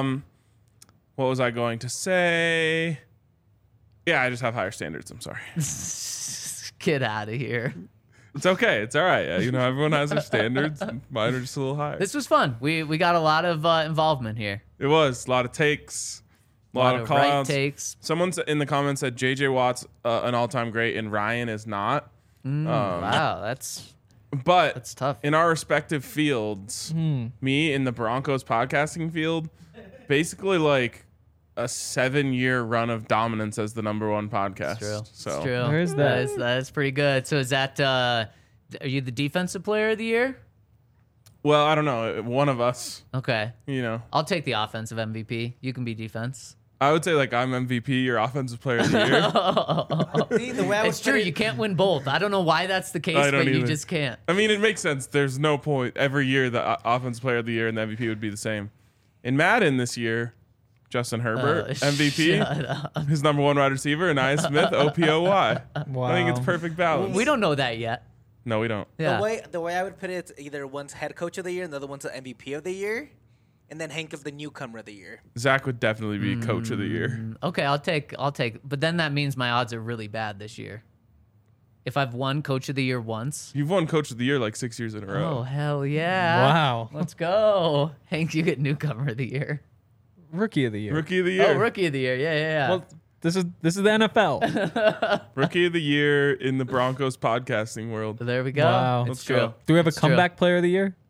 What was I going to say? Yeah, I just have higher standards. I'm sorry. Get out of here. It's okay. It's all right. Everyone has their standards. Mine are just a little higher. This was fun. We got a lot of involvement here. It was a lot of takes, a A lot lot of of call right outs. takes. Someone in the comments said JJ Watt's an all-time great and Ryan is not. Wow, that's But tough. in our respective fields, me in the Broncos podcasting field, basically like a 7-year run of dominance as the #1 podcast. True. So It's true. There is that. That is pretty good. So is that are you the defensive player of the year? well, I don't know. One of us, Okay. I'll take the offensive MVP. You can be defense. I would say like I'm MVP or offensive player of the year. See, the way I It's was true. putting- You can't win both. I don't know why that's the case, I don't but you either. just can't. I mean, it makes sense. There's no point. Every year, the offensive player of the year and the MVP would be the same. In Madden this year, Justin Herbert, MVP, Shut up. his #1 wide receiver, and Nia Smith, OPOY. I think it's perfect balance. We don't know that yet. No, we don't. Yeah. The way I would put it, it's either one's head coach of the year and the other one's the MVP of the year, and then Hank is the newcomer of the year. Zach would definitely be coach of the year. Okay, I'll take. But then that means my odds are really bad this year. If I've won coach of the year once. You've won coach of the year like 6 years in a Oh row. hell yeah! Wow. Let's go, Hank. You get newcomer of the year. Rookie of the year. Rookie of the year. Oh, rookie of the year. Yeah. Well, this is the NFL. Rookie of the year in the Broncos podcasting world. There we go. Wow. It's Let's true. go. Do we have a It's true. comeback player of the year?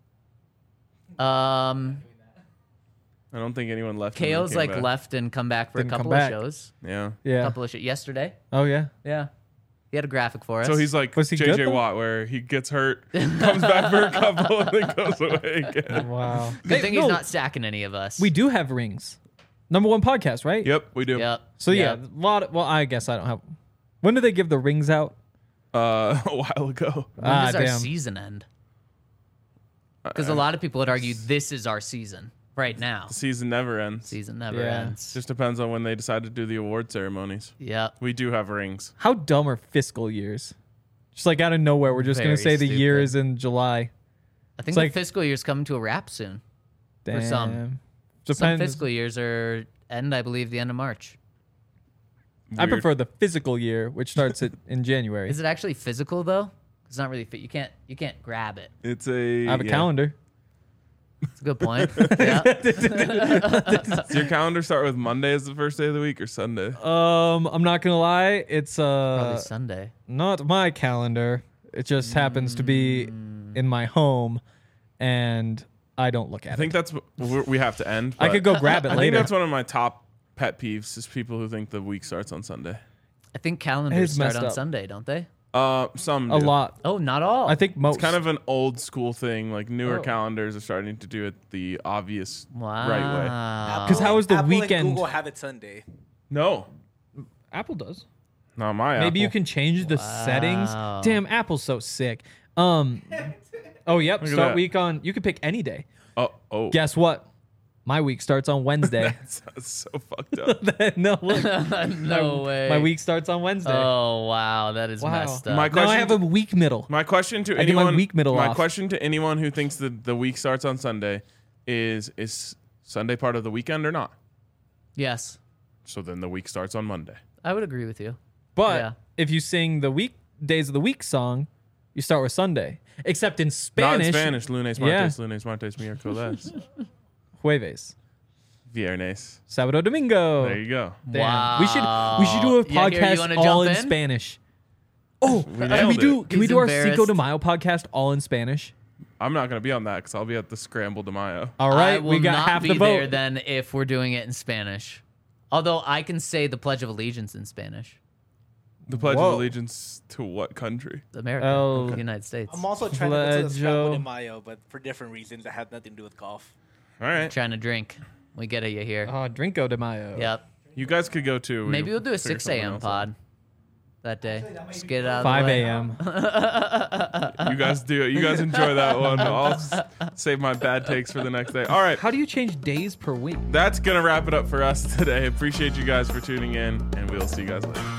I don't think anyone left. and then KO's came like back. left and come back for Didn't a come couple back. of shows. Yeah. Yeah. Couple of shows yesterday. Oh yeah. Yeah. He had a graphic for us. So he's like Was he good, JJ though? Watt, where he gets hurt, comes back for a couple, and then goes away again. Wow. Good thing he's not stacking any of us. We do have rings. Number 1 podcast, right? Yep, we do. Yep. So yeah, Yep. a lot. Well, I guess I don't have. When do they give the rings out? A while ago. When does our damn. season end? Because a lot of people would argue this is our season right now. The season never ends. Season never Yeah. ends. Just depends on when they decide to do the award ceremonies. Yep. We do have rings. How dumb are fiscal years? Just like out of nowhere, we're just gonna Very say the year stupid. is in July. I think It's the like- fiscal year's coming to a wrap soon. Damn. For some. Some Depends. fiscal years are end, I believe, the end of March. I Weird. prefer the physical year, which starts in January. Is it actually physical though? It's not really fit. You can't grab it. It's a. I have a yeah. calendar. It's a good point. Yeah. Does your calendar start with Monday as the first day of the week or Sunday? I'm not gonna lie, it's Probably Sunday. not my calendar. It just happens to be in my home, and I don't look at I think it. that's what we have to end. I but could go grab it I think later. that's one of my top pet peeves is people who think the week starts on Sunday. I think calendars It's start messed on up. Sunday, don't they? A Some do. lot. Oh, not all. I think most. It's kind of an old school thing. Like newer Oh. calendars are starting to do it the obvious Wow. right way. Because how is the Apple weekend? and Google have it Sunday. No, Apple does. not my. Maybe you Apple. can change the settings. Wow. Damn, Apple's so sick. Oh, yep. at Start that. week on. You could pick any day. Oh. Guess what? My week starts on Wednesday. That's so fucked up. No, look. no way. My week starts on Wednesday. Oh wow, that is Wow. messed up. My Now I question have to- a week middle. My question to I get my anyone. week middle my off. question to anyone who thinks that the week starts on Sunday is Sunday part of the weekend or not? Yes, So then the week starts on Monday. I would agree with you. But Yeah. if you sing the week days of the week song, you start with Sunday. Except in Spanish. Not in Spanish. Lunes, Yeah. martes, lunes, martes, miércoles, Jueves. viernes. Sábado, domingo. There you go. Damn. Wow. We should do a Yeah, here, you podcast wanna all jump in in? Spanish. Oh, can we nailed do it. can we He's do our Cinco de embarrassed. Mayo podcast all in Spanish? I'm not going to be on that because I'll be at the Scramble de Mayo. All I right, will we got not half be the there vote. then if we're doing it in Spanish. Although I can say the Pledge of Allegiance in Spanish. The Pledge Whoa. of Allegiance to what country? America, Oh. the United States. I'm also trying to go to the Pledge Scramble de of- Mayo, but for different reasons that have nothing to do with golf. All right. Trying to drink. We get it, you here. Oh, Drinko de Mayo. Yep. You guys could go too. Maybe we'll do a figure 6 something a.m. else out. pod that day. Just get it out of 5 the way. a.m. You guys do it. You guys enjoy that one. I'll save my bad takes for the next day. All right. How do you change days per week? That's going to wrap it up for us today. Appreciate you guys for tuning in, and we'll see you guys later.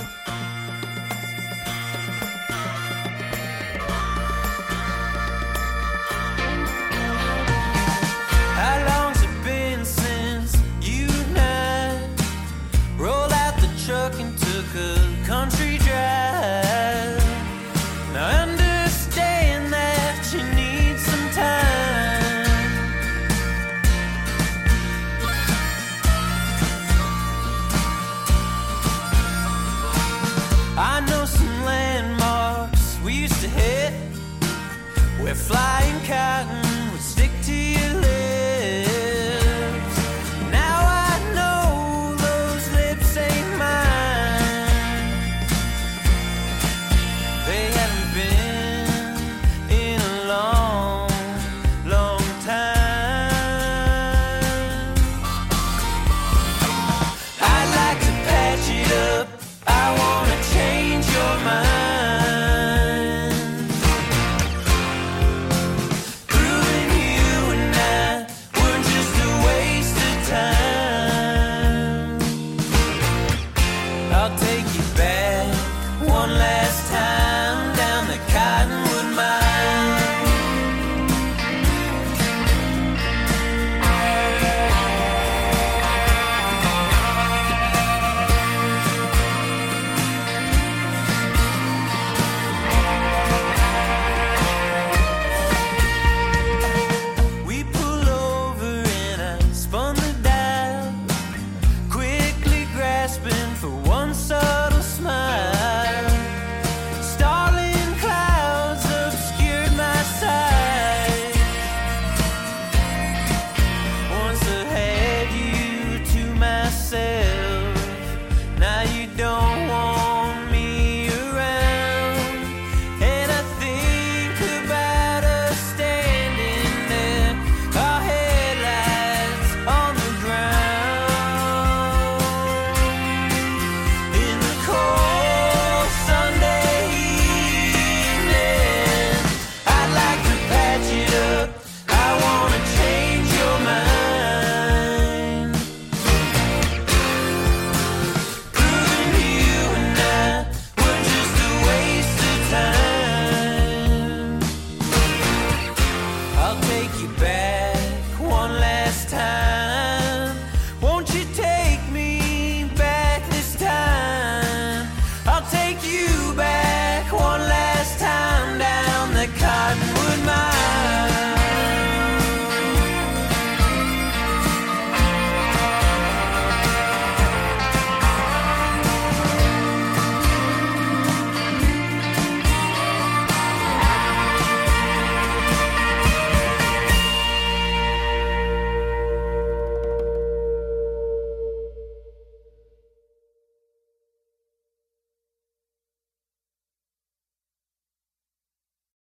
How long's it been since you and I rolled out the truck and took a country drive? Now I understand that you need some time. I know some landmarks we used to hit where flying cotton would stick to your lips. Now I know those lips ain't mine. They haven't been in a long, long time. I'd like to patch it up. I wanna change your mind. Proving you and I were just a waste of time. I'll take you back one last time down the Cottonwood Mine. We pull over and I spun the dial, quickly grasping for one subtle smile. take you back.